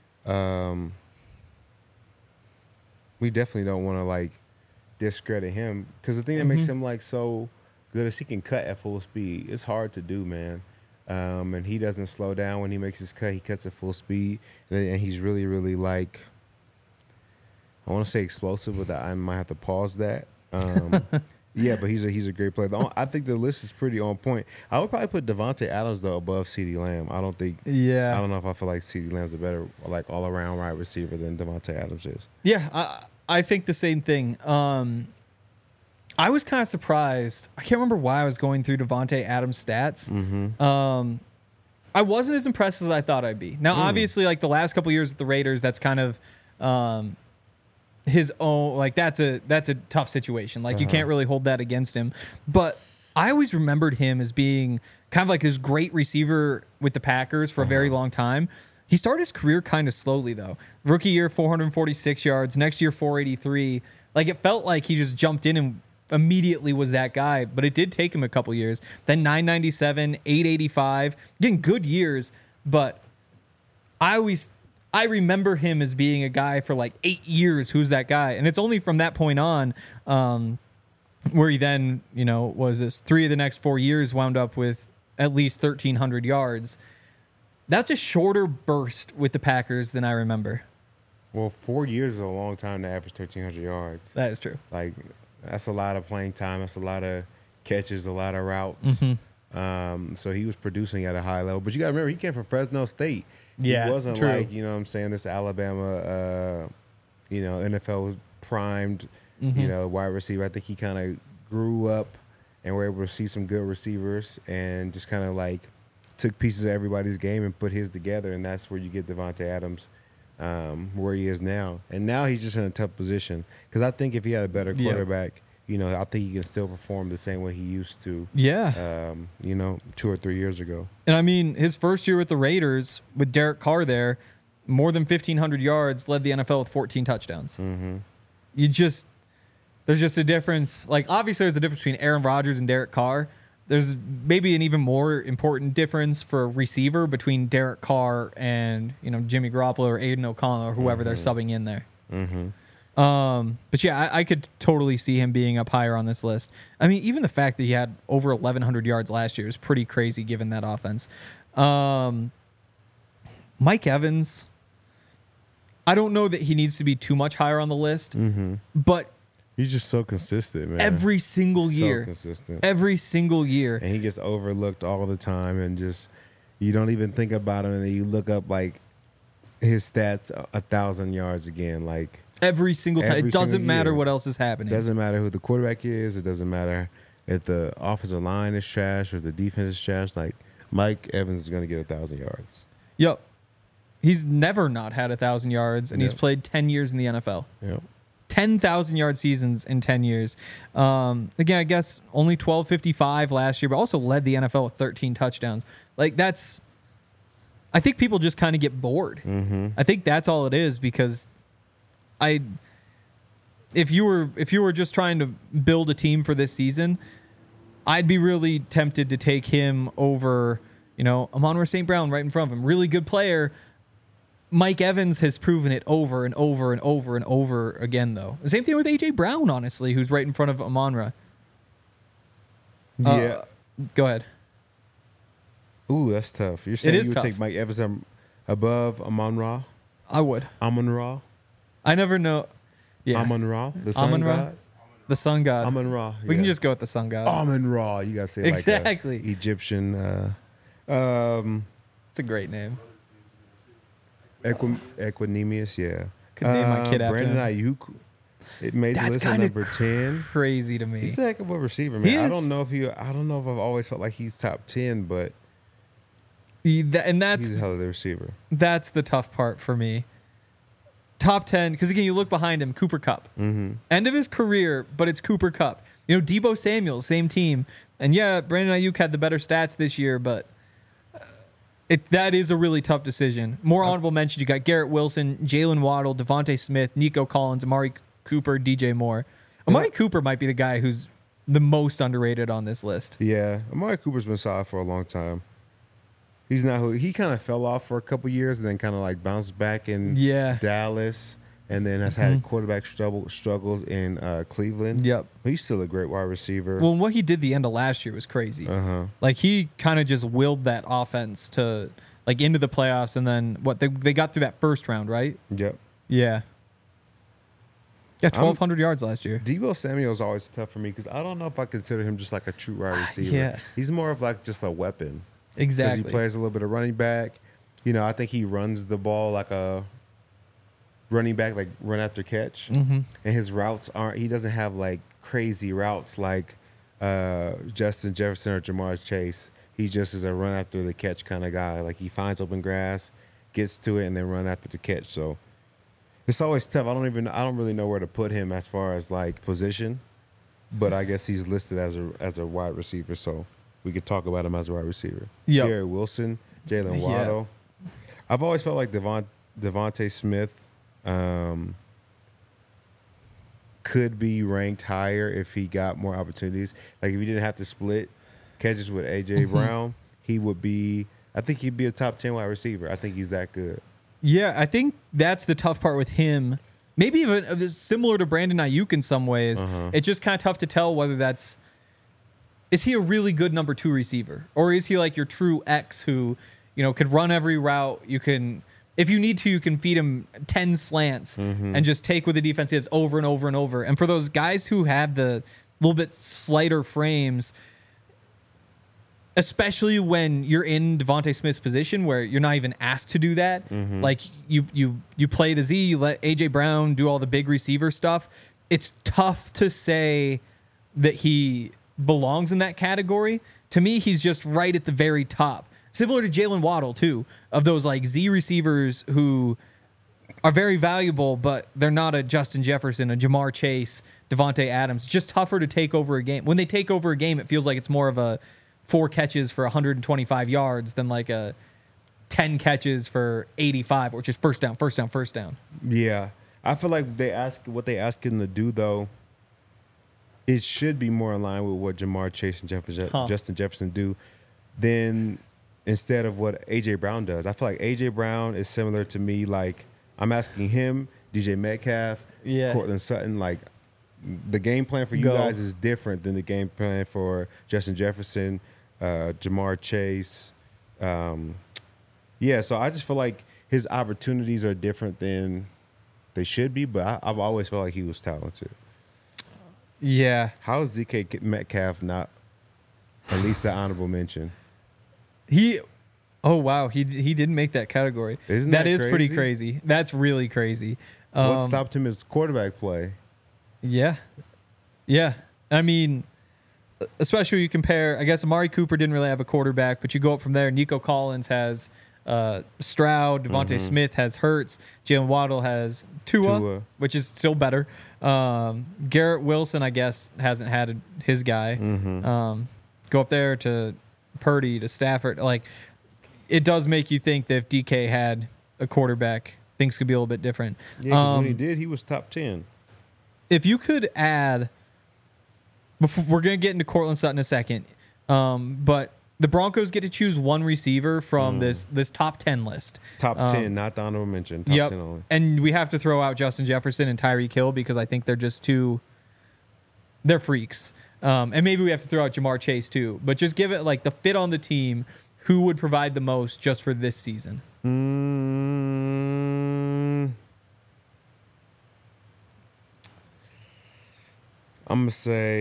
[SPEAKER 3] We definitely don't want to, like, discredit him. Because the thing that makes him, like, so good is he can cut at full speed. It's hard to do, man. And he doesn't slow down when he makes his cut. He cuts at full speed. And he's really, really, like, I want to say explosive, but I might have to pause that. Yeah, but he's a great player. I think the list is pretty on point. I would probably put Devontae Adams, though, above CeeDee Lamb. I don't know if I feel like CeeDee Lamb's a better, like, all-around wide receiver than Devontae Adams is.
[SPEAKER 2] Yeah, I think the same thing. I was kind of surprised. I can't remember why I was going through Devontae Adams' stats. I wasn't as impressed as I thought I'd be. Now, obviously, like the last couple years with the Raiders, that's kind of his own. Like that's a tough situation. Like you can't really hold that against him. But I always remembered him as being kind of like this great receiver with the Packers for a very long time. He started his career kind of slowly though. Rookie year, 446 yards. Next year, 483. Like it felt like he just jumped in and immediately was that guy, but it did take him a couple years. Then 997, 885, again, good years, but I remember him as being a guy for like 8 years who's that guy. And it's only from that point on where he then, was this 3 of the next 4 years wound up with at least 1,300 yards. That's a shorter burst with the Packers than I remember.
[SPEAKER 3] Well, 4 years is a long time to average 1,300 yards.
[SPEAKER 2] That is true.
[SPEAKER 3] Like, that's a lot of playing time. That's a lot of catches, a lot of routes.
[SPEAKER 2] Mm-hmm.
[SPEAKER 3] So he was producing at a high level. But you got to remember, he came from Fresno State.
[SPEAKER 2] Yeah,
[SPEAKER 3] he wasn't
[SPEAKER 2] true.
[SPEAKER 3] like, this Alabama, NFL primed, wide receiver. I think he kind of grew up and were able to see some good receivers and just kind of like took pieces of everybody's game and put his together. And that's where you get Devontae Adams where he is now. And now he's just in a tough position. Because I think if he had a better quarterback, I think he can still perform the same way he used to.
[SPEAKER 2] Yeah.
[SPEAKER 3] 2 or 3 years ago.
[SPEAKER 2] And I mean, his first year with the Raiders, with Derek Carr there, more than 1,500 yards, led the NFL with 14 touchdowns.
[SPEAKER 3] Mm-hmm.
[SPEAKER 2] There's just a difference. Like, obviously, there's a difference between Aaron Rodgers and Derek Carr. There's maybe an even more important difference for a receiver between Derek Carr and, Jimmy Garoppolo or Aiden O'Connell or whoever they're subbing in there.
[SPEAKER 3] Mm-hmm.
[SPEAKER 2] But yeah, I could totally see him being up higher on this list. I mean, even the fact that he had over 1,100 yards last year is pretty crazy given that offense. Mike Evans, I don't know that he needs to be too much higher on the list, but
[SPEAKER 3] he's just so consistent, man.
[SPEAKER 2] Every single year.
[SPEAKER 3] So consistent.
[SPEAKER 2] Every single year.
[SPEAKER 3] And he gets overlooked all the time and just, you don't even think about him and then you look up like his stats 1,000 yards again, like
[SPEAKER 2] every single time. It doesn't matter what else is happening.
[SPEAKER 3] It doesn't matter who the quarterback is. It doesn't matter if the offensive line is trash or the defense is trash. Like, Mike Evans is going to get 1,000 yards.
[SPEAKER 2] Yep. He's never not had 1,000 yards, and he's played 10 years in the NFL.
[SPEAKER 3] Yep.
[SPEAKER 2] 10,000-yard seasons in 10 years. Again, I guess only 1,255 last year, but also led the NFL with 13 touchdowns. Like, that's... I think people just kind of get bored.
[SPEAKER 3] Mm-hmm.
[SPEAKER 2] I think that's all it is, because if you were just trying to build a team for this season, I'd be really tempted to take him over, Amon-Ra St. Brown right in front of him. Really good player. Mike Evans has proven it over and over and over and over again, though. The same thing with A.J. Brown, honestly, who's right in front of Amon-Ra.
[SPEAKER 3] Yeah.
[SPEAKER 2] Go ahead.
[SPEAKER 3] Ooh, that's tough. You're saying you would
[SPEAKER 2] tough.
[SPEAKER 3] take Mike Evans above Amon-Ra?
[SPEAKER 2] I would.
[SPEAKER 3] Amon-Ra?
[SPEAKER 2] I never know. Yeah.
[SPEAKER 3] Amon-Ra? The sun
[SPEAKER 2] Amon-Ra?
[SPEAKER 3] god?
[SPEAKER 2] The sun god.
[SPEAKER 3] Amon-Ra.
[SPEAKER 2] We can just go with the sun god.
[SPEAKER 3] Amon-Ra. You got to say it
[SPEAKER 2] exactly.
[SPEAKER 3] like Egyptian.
[SPEAKER 2] It's a great name.
[SPEAKER 3] Equanimous, yeah.
[SPEAKER 2] Could name my kid after
[SPEAKER 3] Brandon
[SPEAKER 2] him.
[SPEAKER 3] Ayuk. It made the
[SPEAKER 2] That's
[SPEAKER 3] list at
[SPEAKER 2] kinda
[SPEAKER 3] number 10.
[SPEAKER 2] Crazy to me.
[SPEAKER 3] He's a heck of a receiver, man.
[SPEAKER 2] He
[SPEAKER 3] I
[SPEAKER 2] is.
[SPEAKER 3] don't know if I've always felt like he's top 10, but
[SPEAKER 2] And that's
[SPEAKER 3] he's a hell of a receiver.
[SPEAKER 2] that's the tough part for me. Top 10, because again, you look behind him, Cooper Kupp.
[SPEAKER 3] Mm-hmm.
[SPEAKER 2] End of his career, but it's Cooper Kupp. Deebo Samuel, same team. And yeah, Brandon Ayuk had the better stats this year, but that is a really tough decision. More honorable mentions, you got Garrett Wilson, Jalen Waddle, Devontae Smith, Nico Collins, Amari Cooper, DJ Moore. Amari Cooper might be the guy who's the most underrated on this list.
[SPEAKER 3] Yeah, Amari Cooper's been solid for a long time. He's not who he kind of fell off for a couple years and then kind of like bounced back in Dallas, and then has had quarterback struggles in Cleveland.
[SPEAKER 2] Yep.
[SPEAKER 3] But he's still a great wide receiver.
[SPEAKER 2] Well, what he did the end of last year was crazy. Like, he kind of just willed that offense to like into the playoffs, and then they got through that first round, right?
[SPEAKER 3] Yep.
[SPEAKER 2] Yeah. Yeah, 1,200 yards last year.
[SPEAKER 3] Deebo Samuel's always tough for me because I don't know if I consider him just like a true wide receiver.
[SPEAKER 2] Yeah.
[SPEAKER 3] He's more of like just a weapon.
[SPEAKER 2] Exactly.
[SPEAKER 3] Because he plays a little bit of running back. I think he runs the ball like a running back, like run after catch.
[SPEAKER 2] Mm-hmm.
[SPEAKER 3] And his routes he doesn't have like crazy routes like Justin Jefferson or Jamar Chase. He just is a run after the catch kind of guy. Like he finds open grass, gets to it, and then run after the catch. So it's always tough. I don't really know where to put him as far as like position, but I guess he's listed as a wide receiver. So we could talk about him as a wide receiver.
[SPEAKER 2] Yep.
[SPEAKER 3] Garrett Wilson, Jalen Waddle. I've always felt like Devontae Smith could be ranked higher if he got more opportunities. Like if he didn't have to split catches with A.J. Brown, he would be – I think he'd be a top 10 wide receiver. I think he's that good.
[SPEAKER 2] Yeah, I think that's the tough part with him. Maybe even similar to Brandon Ayuk in some ways. It's just kind of tough to tell whether that's – is he a really good number 2 receiver? Or is he like your true X who, could run every route? You can – if you need to, you can feed him 10 slants and just take with the defensives over and over and over. And for those guys who have the little bit slighter frames, especially when you're in Devontae Smith's position where you're not even asked to do that, like you play the Z, you let A.J. Brown do all the big receiver stuff, it's tough to say that he belongs in that category. To me, he's just right at the very top. Similar to Jalen Waddle, too, of those like Z receivers who are very valuable, but they're not a Justin Jefferson, a Jamar Chase, Devontae Adams. It's just tougher to take over a game. When they take over a game, it feels like it's more of a 4 catches for 125 yards than like a 10 catches for 85, which is first down.
[SPEAKER 3] Yeah. I feel like what they ask him to do, though, it should be more in line with what Jamar Chase and Justin Jefferson do than instead of what A.J. Brown does. I feel like A.J. Brown is similar to me. Like, I'm asking him, DJ Metcalf, Cortland Sutton, like, the game plan for you guys is different than the game plan for Justin Jefferson, Jamar Chase. So I just feel like his opportunities are different than they should be, but I've always felt like he was talented.
[SPEAKER 2] Yeah.
[SPEAKER 3] How is DK Metcalf not at least an honorable mention?
[SPEAKER 2] He didn't make that category.
[SPEAKER 3] Isn't that
[SPEAKER 2] is
[SPEAKER 3] crazy?
[SPEAKER 2] Pretty crazy. That's really crazy.
[SPEAKER 3] What stopped him is quarterback play.
[SPEAKER 2] Yeah. I mean, especially you compare, I guess Amari Cooper didn't really have a quarterback, but you go up from there. Nico Collins has Stroud. Devontae Smith has Hurts. Jalen Waddle has Tua, which is still better. Garrett Wilson, I guess, hasn't had his guy. Go up there to Purdy, to Stafford. Like, it does make you think that if DK had a quarterback, things could be a little bit different.
[SPEAKER 3] Yeah, because when he did, he was top 10.
[SPEAKER 2] If you could add, we're going to get into Cortland Sutton in a second, but the Broncos get to choose one receiver from this top 10 list.
[SPEAKER 3] Top 10, not the honorable mention. Top 10 only.
[SPEAKER 2] And we have to throw out Justin Jefferson and Tyreek Hill because I think they're just they're freaks. And maybe we have to throw out Jamar Chase too. But just give it like the fit on the team, who would provide the most just for this season?
[SPEAKER 3] I'm going to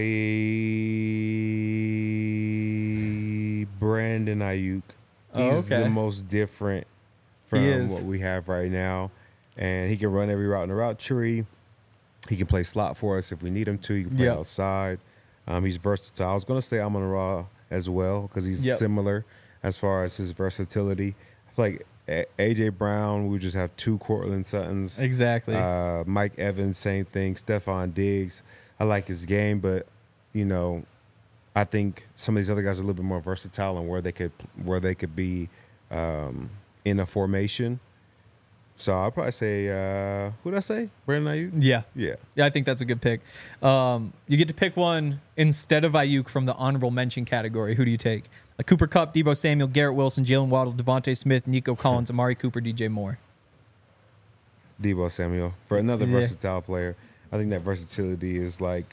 [SPEAKER 3] say Brandon Ayuk. He's the most different from what we have right now. And he can run every route in the route tree. He can play slot for us if we need him to. He can play outside. He's versatile. I was going to say Amon-Ra as well because he's similar as far as his versatility. I feel like A.J. Brown, we just have 2 Cortland Suttons.
[SPEAKER 2] Exactly.
[SPEAKER 3] Mike Evans, same thing. Stephon Diggs. I like his game, but, I think some of these other guys are a little bit more versatile and where they could be in a formation. So I'll probably say, who did I say? Brandon Ayuk?
[SPEAKER 2] Yeah, I think that's a good pick. You get to pick one instead of Ayuk from the honorable mention category. Who do you take? Like Cooper Kupp, Deebo Samuel, Garrett Wilson, Jalen Waddle, Devontae Smith, Nico Collins, Amari Cooper, DJ Moore.
[SPEAKER 3] Deebo Samuel. For another versatile player. I think that versatility is like,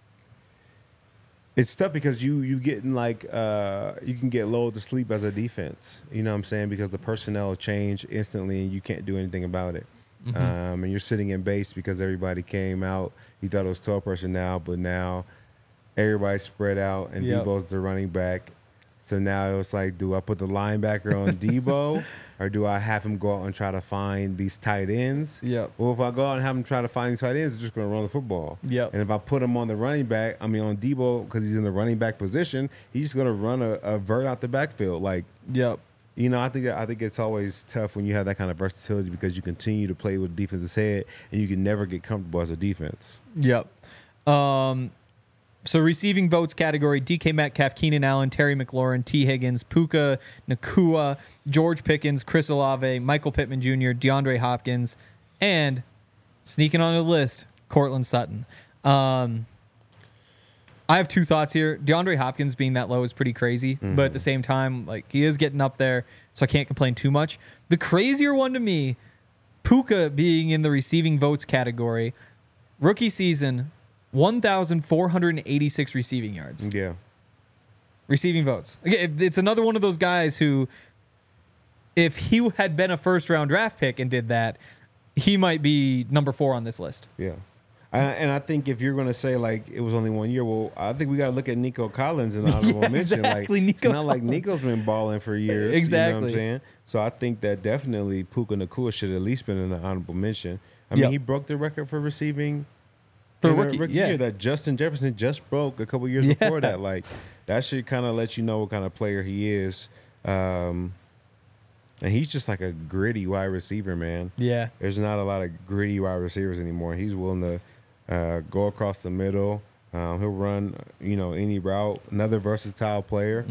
[SPEAKER 3] it's tough because you getting like you can get lulled to sleep as a defense. You know what I'm saying? Because the personnel change instantly and you can't do anything about it. And you're sitting in base because everybody came out. You thought it was 12 personnel, but now everybody's spread out and Deebo's the running back. So now it's like, do I put the linebacker on Debo, or do I have him go out and try to find these tight ends?
[SPEAKER 2] Yep.
[SPEAKER 3] Well, if I go out and have him try to find these tight ends, they're just going to run the football.
[SPEAKER 2] Yep.
[SPEAKER 3] And if I put him on the running back, on Debo, because he's in the running back position, he's just going to run a vert out the backfield. Like,
[SPEAKER 2] Yep.
[SPEAKER 3] you know, I think it's always tough when you have that kind of versatility because you continue to play with defense's head and you can never get comfortable as a defense.
[SPEAKER 2] Yep. So receiving votes category: DK Metcalf, Keenan Allen, Terry McLaurin, T. Higgins, Puka Nacua, George Pickens, Chris Olave, Michael Pittman Jr., DeAndre Hopkins, and sneaking on the list, Courtland Sutton. I have two thoughts here. DeAndre Hopkins being that low is pretty crazy, but at the same time, like, he is getting up there, so I can't complain too much. The crazier one to me, Puka being in the receiving votes category, rookie season, 1,486 receiving yards.
[SPEAKER 3] Yeah.
[SPEAKER 2] Receiving votes. It's another one of those guys who, if he had been a first-round draft pick and did that, he might be number 4 on this list.
[SPEAKER 3] Yeah. And I think if you're going to say, like, it was only 1 year, well, I think we got to look at Nico Collins in the honorable mention.
[SPEAKER 2] Exactly,
[SPEAKER 3] Like,
[SPEAKER 2] Nico
[SPEAKER 3] it's not like Nico's been balling for years.
[SPEAKER 2] Exactly.
[SPEAKER 3] You know what I'm saying? So I think that definitely Puka Nacua should at least been in the honorable mention. I mean, he broke the record for receiving
[SPEAKER 2] For
[SPEAKER 3] in
[SPEAKER 2] rookie, yeah.
[SPEAKER 3] year that Justin Jefferson just broke a couple years before that. Like, that should kind of let you know what kind of player he is. And he's just like a gritty wide receiver, man.
[SPEAKER 2] Yeah.
[SPEAKER 3] There's not a lot of gritty wide receivers anymore. He's willing to go across the middle. He'll run, any route. Another versatile player.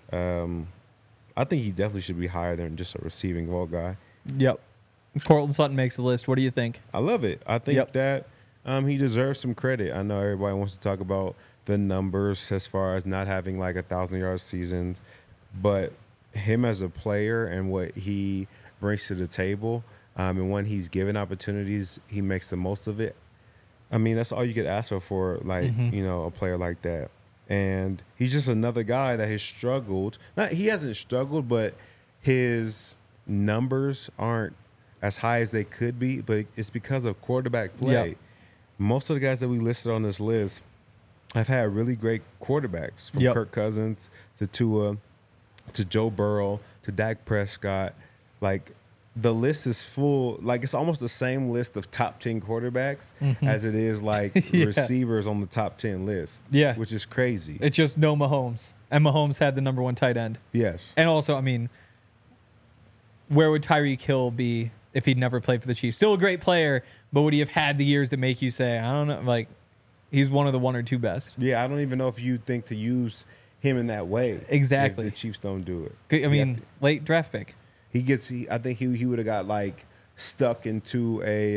[SPEAKER 3] I think he definitely should be higher than just a receiving vote guy.
[SPEAKER 2] Yep. Courtland Sutton makes the list. What do you think?
[SPEAKER 3] I love it. I think that he deserves some credit. I know everybody wants to talk about the numbers as far as not having like 1,000-yard seasons, but him as a player and what he brings to the table, and when he's given opportunities, he makes the most of it. I mean, that's all you could ask for, like, a player like that. And he's just another guy that has struggled. He hasn't struggled, but his numbers aren't as high as they could be, but it's because of quarterback play. Yep. Most of the guys that we listed on this list have had really great quarterbacks, from Kirk Cousins to Tua to Joe Burrow to Dak Prescott. Like, the list is full. Like, it's almost the same list of top 10 quarterbacks as it is like receivers on the top 10 list.
[SPEAKER 2] Yeah.
[SPEAKER 3] Which is crazy.
[SPEAKER 2] It's just no Mahomes. And Mahomes had the number 1 tight end.
[SPEAKER 3] Yes.
[SPEAKER 2] And also, I mean, where would Tyreek Hill be if he'd never played for the Chiefs? Still a great player, but would he have had the years that make you say, I don't know, like, he's one of the 1 or 2 best?
[SPEAKER 3] Yeah, I don't even know if you think to use him in that way.
[SPEAKER 2] Exactly.
[SPEAKER 3] If the Chiefs don't do it.
[SPEAKER 2] I mean, late draft pick.
[SPEAKER 3] I think he would have got, like, stuck into a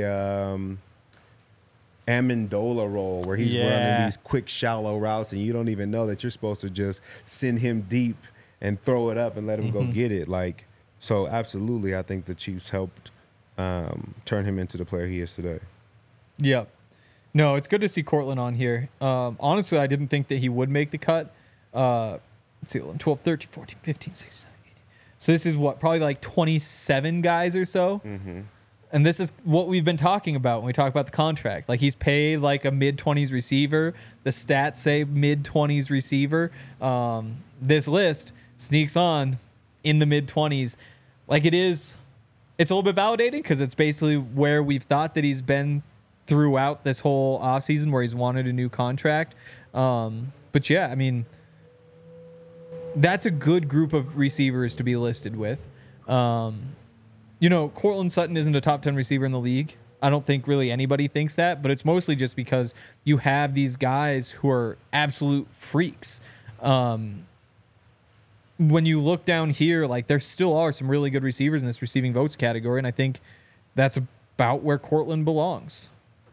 [SPEAKER 3] Amendola role where he's running these quick, shallow routes, and you don't even know that you're supposed to just send him deep and throw it up and let him go get it. Like, so absolutely, I think the Chiefs helped turn him into the player he is today.
[SPEAKER 2] Yep. No, it's good to see Courtland on here. Honestly, I didn't think that he would make the cut. Let's see, 12, 13, 14, 15, 16, 17. So this is what, probably like 27 guys or so? And this is what we've been talking about when we talk about the contract. Like, he's paid like a mid-20s receiver. The stats say mid-20s receiver. This list sneaks on in the mid-20s. Like, it's a little bit validating because it's basically where we've thought that he's been throughout this whole offseason, where he's wanted a new contract. But yeah, I mean, that's a good group of receivers to be listed with. Courtland Sutton isn't a top 10 receiver in the league. I don't think really anybody thinks that, but it's mostly just because you have these guys who are absolute freaks. When you look down here, like, there still are some really good receivers in this receiving votes category, and I think that's about where Courtland belongs.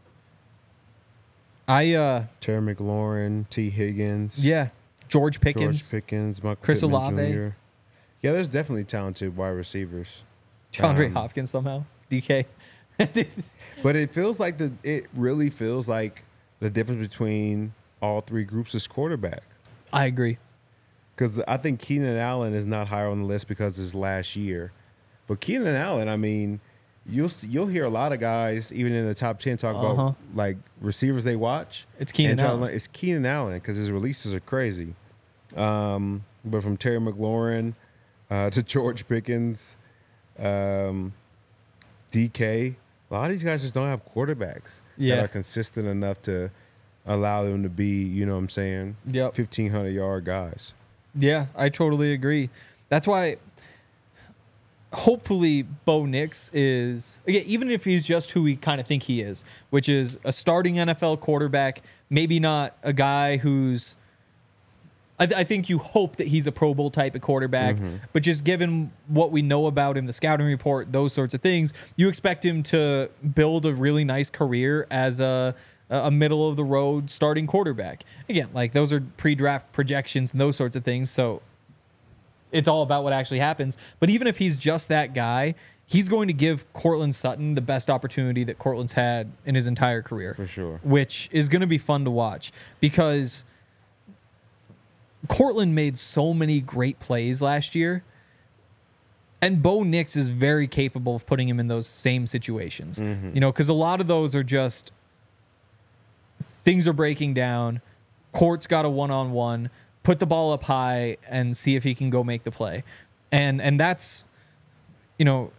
[SPEAKER 2] Terry
[SPEAKER 3] McLaurin, T. Higgins.
[SPEAKER 2] Yeah. George Pickens,
[SPEAKER 3] Michael
[SPEAKER 2] Chris
[SPEAKER 3] Pittman
[SPEAKER 2] Olave.
[SPEAKER 3] Jr. Yeah, there's definitely talented wide receivers.
[SPEAKER 2] DeAndre Hopkins somehow. DK.
[SPEAKER 3] But it really feels like the difference between all 3 groups is quarterback.
[SPEAKER 2] I agree.
[SPEAKER 3] Because I think Keenan Allen is not higher on the list because it's last year. But Keenan Allen, I mean, you'll hear a lot of guys, even in the top 10, talk about, like, receivers they watch.
[SPEAKER 2] It's Keenan Allen.
[SPEAKER 3] It's Keenan Allen because his releases are crazy. but from Terry McLaurin to George Pickens, DK, a lot of these guys just don't have quarterbacks that are consistent enough to allow them to be, you know what I'm saying, 1,500-yard guys.
[SPEAKER 2] Yeah, I totally agree. That's why hopefully Bo Nix is, even if he's just who we kind of think he is, which is a starting NFL quarterback, maybe not a guy who's, I think you hope that he's a Pro Bowl type of quarterback, but just given what we know about him, the scouting report, those sorts of things, you expect him to build a really nice career as a middle of the road starting quarterback. Again, like those are pre-draft projections and those sorts of things. So it's all about what actually happens. But even if he's just that guy, he's going to give Courtland Sutton the best opportunity that Courtland's had in his entire career.
[SPEAKER 3] For sure.
[SPEAKER 2] Which is going to be fun to watch because Courtland made so many great plays last year. And Bo Nix is very capable of putting him in those same situations. You know, because a lot of those are just things are breaking down. Court's got a one-on-one. Put the ball up high and see if he can go make the play. And that's, you know,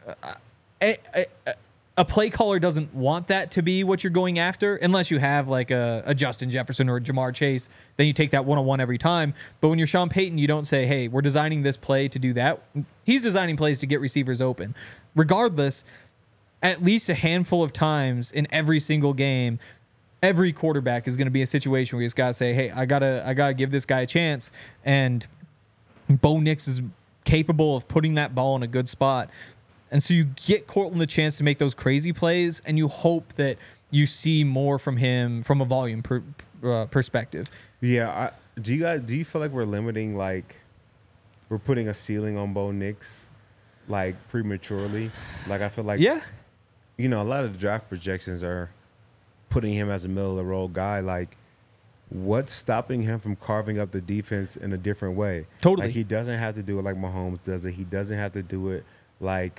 [SPEAKER 2] a play caller doesn't want that to be what you're going after unless you have like a Justin Jefferson or a Jamar Chase. Then you take that one-on-one every time. But when you're Sean Payton, you don't say, hey, we're designing this play to do that. He's designing plays to get receivers open. Regardless, at least a handful of times in every single game, every quarterback is going to be a situation where you just got to say, hey, I gotta give this guy a chance. And Bo Nix is capable of putting that ball in a good spot. And so you get Courtland the chance to make those crazy plays, and you hope that you see more from him from a volume perspective.
[SPEAKER 3] Yeah. Do you feel like we're limiting, like, we're putting a ceiling on Bo Nix, like, prematurely? Like, I feel like, you know, a lot of the draft projections are putting him as a middle-of-the-road guy. Like, what's stopping him from carving up the defense in a different way?
[SPEAKER 2] Totally.
[SPEAKER 3] Like, he doesn't have to do it like Mahomes does it. He doesn't have to do it like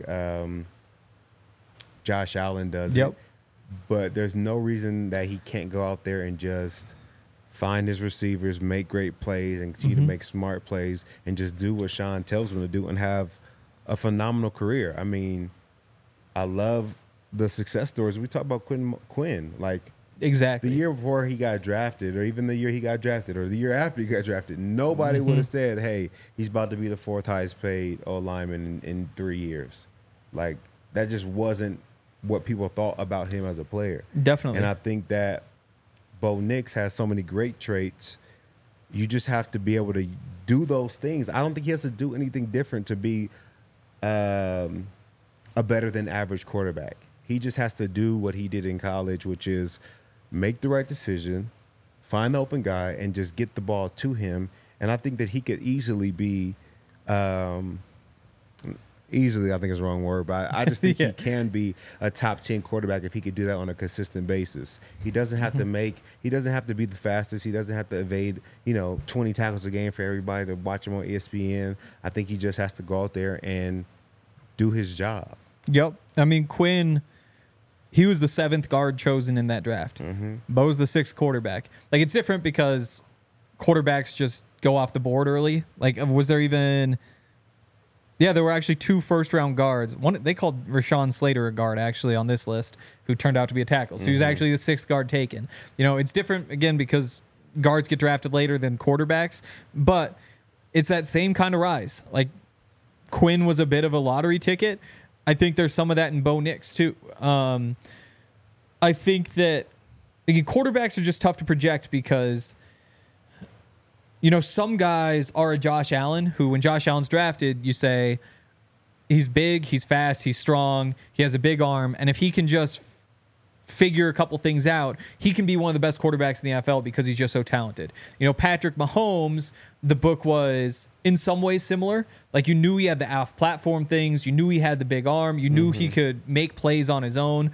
[SPEAKER 3] Josh Allen does it. But there's no reason that he can't go out there and just find his receivers, make great plays, and continue to make smart plays, and just do what Sean tells him to do and have a phenomenal career. I mean, I love the success stories. We talk about Quinn. Like,
[SPEAKER 2] exactly.
[SPEAKER 3] The year before he got drafted, or even the year he got drafted, or the year after he got drafted, nobody would have said, hey, he's about to be the fourth highest paid O-lineman in 3 years. Like, that just wasn't what people thought about him as a player.
[SPEAKER 2] Definitely.
[SPEAKER 3] And I think that Bo Nix has so many great traits. You just have to be able to do those things. I don't think he has to do anything different to be a better than average quarterback. He just has to do what he did in college, which is make the right decision, find the open guy, and just get the ball to him. And I think that he could easily be easily, I think is the wrong word, but I just think he can be a top 10 quarterback if he could do that on a consistent basis. He doesn't have to he doesn't have to be the fastest. He doesn't have to evade, 20 tackles a game for everybody to watch him on ESPN. I think he just has to go out there and do his job.
[SPEAKER 2] Yep. I mean, Quinn, he was the 7th guard chosen in that draft. Bo's the 6th quarterback. Like, it's different because quarterbacks just go off the board early. Like, was there even... Yeah, there were actually 2 first-round guards. One, they called Rashawn Slater a guard, actually, on this list, who turned out to be a tackle. So he was actually the 6th guard taken. It's different, again, because guards get drafted later than quarterbacks, but it's that same kind of rise. Like, Quinn was a bit of a lottery ticket. I think there's some of that in Bo Nix, too. I think that quarterbacks are just tough to project because... some guys are a Josh Allen who, when Josh Allen's drafted, you say he's big, he's fast, he's strong, he has a big arm, and if he can just figure a couple things out, he can be one of the best quarterbacks in the NFL because he's just so talented. Patrick Mahomes, the book was in some ways similar. Like, you knew he had the off-platform things, you knew he had the big arm, you knew he could make plays on his own.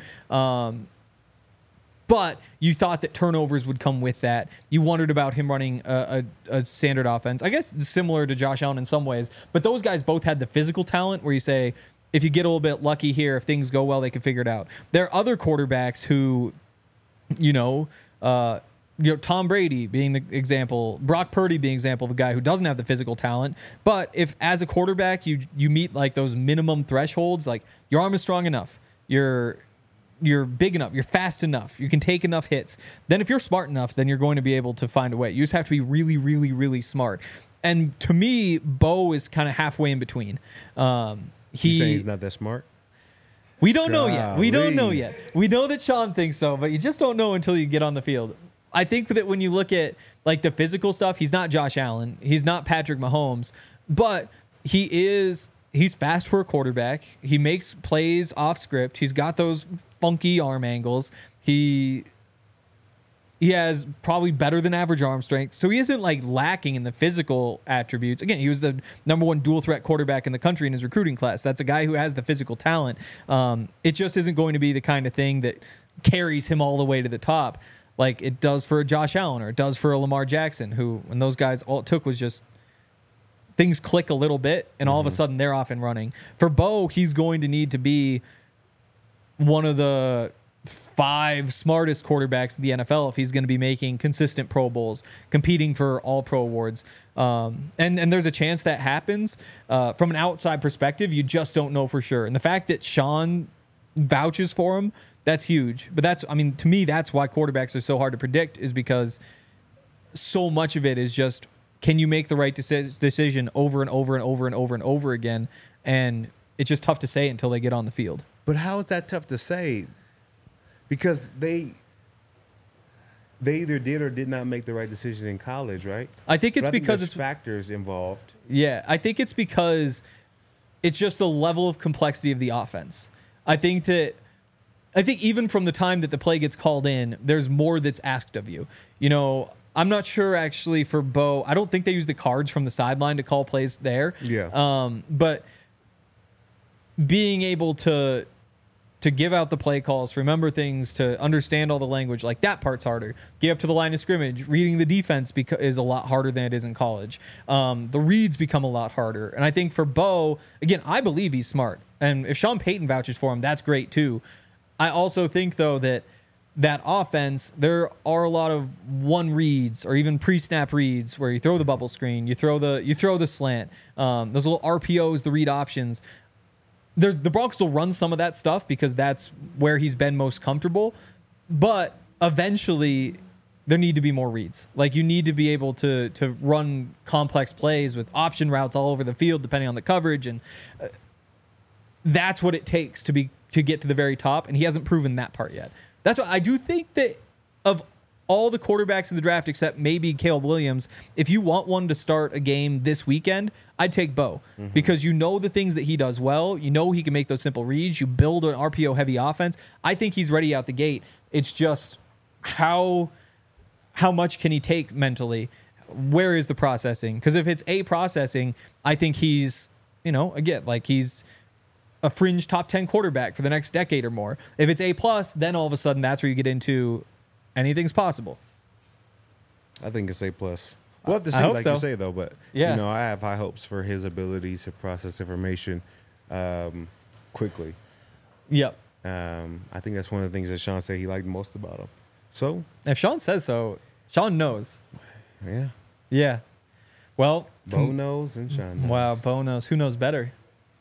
[SPEAKER 2] But you thought that turnovers would come with that. You wondered about him running a standard offense. I guess similar to Josh Allen in some ways. But those guys both had the physical talent where you say, if you get a little bit lucky here, if things go well, they can figure it out. There are other quarterbacks who, Tom Brady being the example, Brock Purdy being example of a guy who doesn't have the physical talent, but if as a quarterback you meet like those minimum thresholds, like your arm is strong enough, you're big enough, you're fast enough, you can take enough hits, then if you're smart enough, then you're going to be able to find a way. You just have to be really, really, really smart. And to me, Bo is kind of halfway in between.
[SPEAKER 3] You saying he's not that smart?
[SPEAKER 2] We don't know yet. We don't know yet. We know that Sean thinks so, but you just don't know until you get on the field. I think that when you look at like the physical stuff, he's not Josh Allen. He's not Patrick Mahomes, but he's fast for a quarterback. He makes plays off script. He's got those funky arm angles. He has probably better than average arm strength. So he isn't like lacking in the physical attributes. Again, he was the number one dual threat quarterback in the country in his recruiting class. That's a guy who has the physical talent. It just isn't going to be the kind of thing that carries him all the way to the top like it does for a Josh Allen or it does for a Lamar Jackson, who, when those guys, all it took was just things click a little bit and all of a sudden they're off and running. For Bo, he's going to need to be one of the 5 smartest quarterbacks in the NFL if he's going to be making consistent Pro Bowls, competing for all Pro awards. And there's a chance that happens. From an outside perspective, you just don't know for sure. And the fact that Sean vouches for him, that's huge. But to me, that's why quarterbacks are so hard to predict, is because so much of it is just, can you make the right decision over and over and over and over and over again? And it's just tough to say until they get on the field.
[SPEAKER 3] But how is that tough to say? Because they either did or did not make the right decision in college, right?
[SPEAKER 2] I think it's because it's
[SPEAKER 3] factors involved.
[SPEAKER 2] Yeah, I think it's because it's just the level of complexity of the offense. I think even from the time that the play gets called in, there's more that's asked of you. I'm not sure actually for Bo. I don't think they use the cards from the sideline to call plays there.
[SPEAKER 3] Yeah.
[SPEAKER 2] But being able to give out the play calls, remember things, to understand all the language, like that part's harder. Get up to the line of scrimmage, reading the defense is a lot harder than it is in college. The reads become a lot harder. And I think for Bo, again, I believe he's smart. And if Sean Payton vouches for him, that's great too. I also think, though, that offense, there are a lot of one reads or even pre-snap reads where you throw the bubble screen, you throw the slant, those little RPOs, the read options. The Broncos will run some of that stuff because that's where he's been most comfortable. But eventually, there need to be more reads. Like, you need to be able to run complex plays with option routes all over the field, depending on the coverage, and that's what it takes to get to the very top. And he hasn't proven that part yet. That's why I do think that of all the quarterbacks in the draft, except maybe Caleb Williams, if you want one to start a game this weekend, I'd take Bo, because you know the things that he does well. You know he can make those simple reads. You build an RPO-heavy offense. I think he's ready out the gate. It's just how much can he take mentally? Where is the processing? Because if it's A, processing, I think he's, again, like he's a fringe top 10 quarterback for the next decade or more. If it's A+, then all of a sudden that's where you get into anything's possible.
[SPEAKER 3] I think it's A+. We'll have to see, like you say, though. But,
[SPEAKER 2] yeah.
[SPEAKER 3] I have high hopes for his ability to process information quickly.
[SPEAKER 2] Yep.
[SPEAKER 3] I think that's one of the things that Sean said he liked most about him. So?
[SPEAKER 2] If Sean says so, Sean knows.
[SPEAKER 3] Yeah.
[SPEAKER 2] Yeah. Well.
[SPEAKER 3] Bo knows and Sean knows.
[SPEAKER 2] Wow, Bo knows. Who knows better?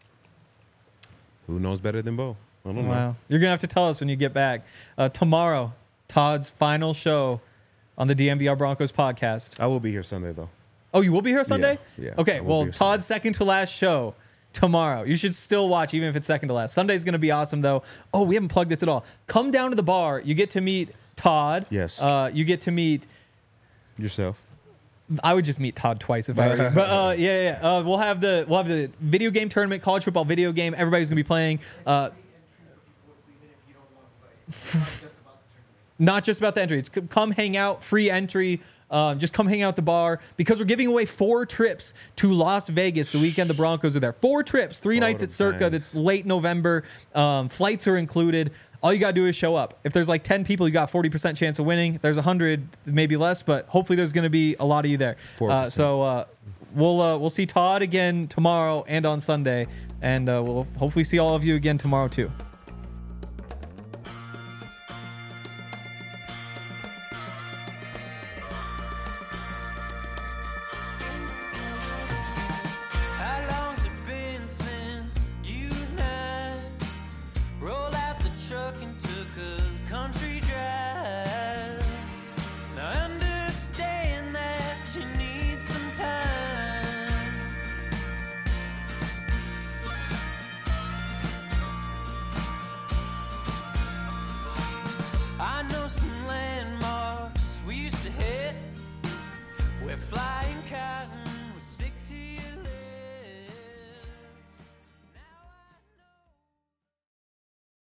[SPEAKER 3] Who knows better than Bo? I don't know.
[SPEAKER 2] Wow. You're going to have to tell us when you get back. Tomorrow, Todd's final show on the DMVR Broncos podcast.
[SPEAKER 3] I will be here Sunday, though.
[SPEAKER 2] Oh, you will be here Sunday?
[SPEAKER 3] Yeah.
[SPEAKER 2] Okay, well, Todd's second to last show tomorrow. You should still watch, even if it's second to last. Sunday's going to be awesome, though. Oh, we haven't plugged this at all. Come down to the bar. You get to meet Todd.
[SPEAKER 3] Yes.
[SPEAKER 2] You get to meet
[SPEAKER 3] yourself.
[SPEAKER 2] I would just meet Todd twice if I were you. But yeah. We'll have the video game tournament, college football video game. Everybody's gonna be playing. Not just about the entry. It's come hang out, free entry. Just come hang out at the bar, because we're giving away 4 trips to Las Vegas the weekend the Broncos are there. 4 trips, 3 nights at Circa. That's late November. Flights are included. All you got to do is show up. If there's like 10 people, you got 40% chance of winning. If there's 100, maybe less, but hopefully there's going to be a lot of you there. So we'll see Todd again tomorrow and on Sunday, and we'll hopefully see all of you again tomorrow too.
[SPEAKER 1] buying cotton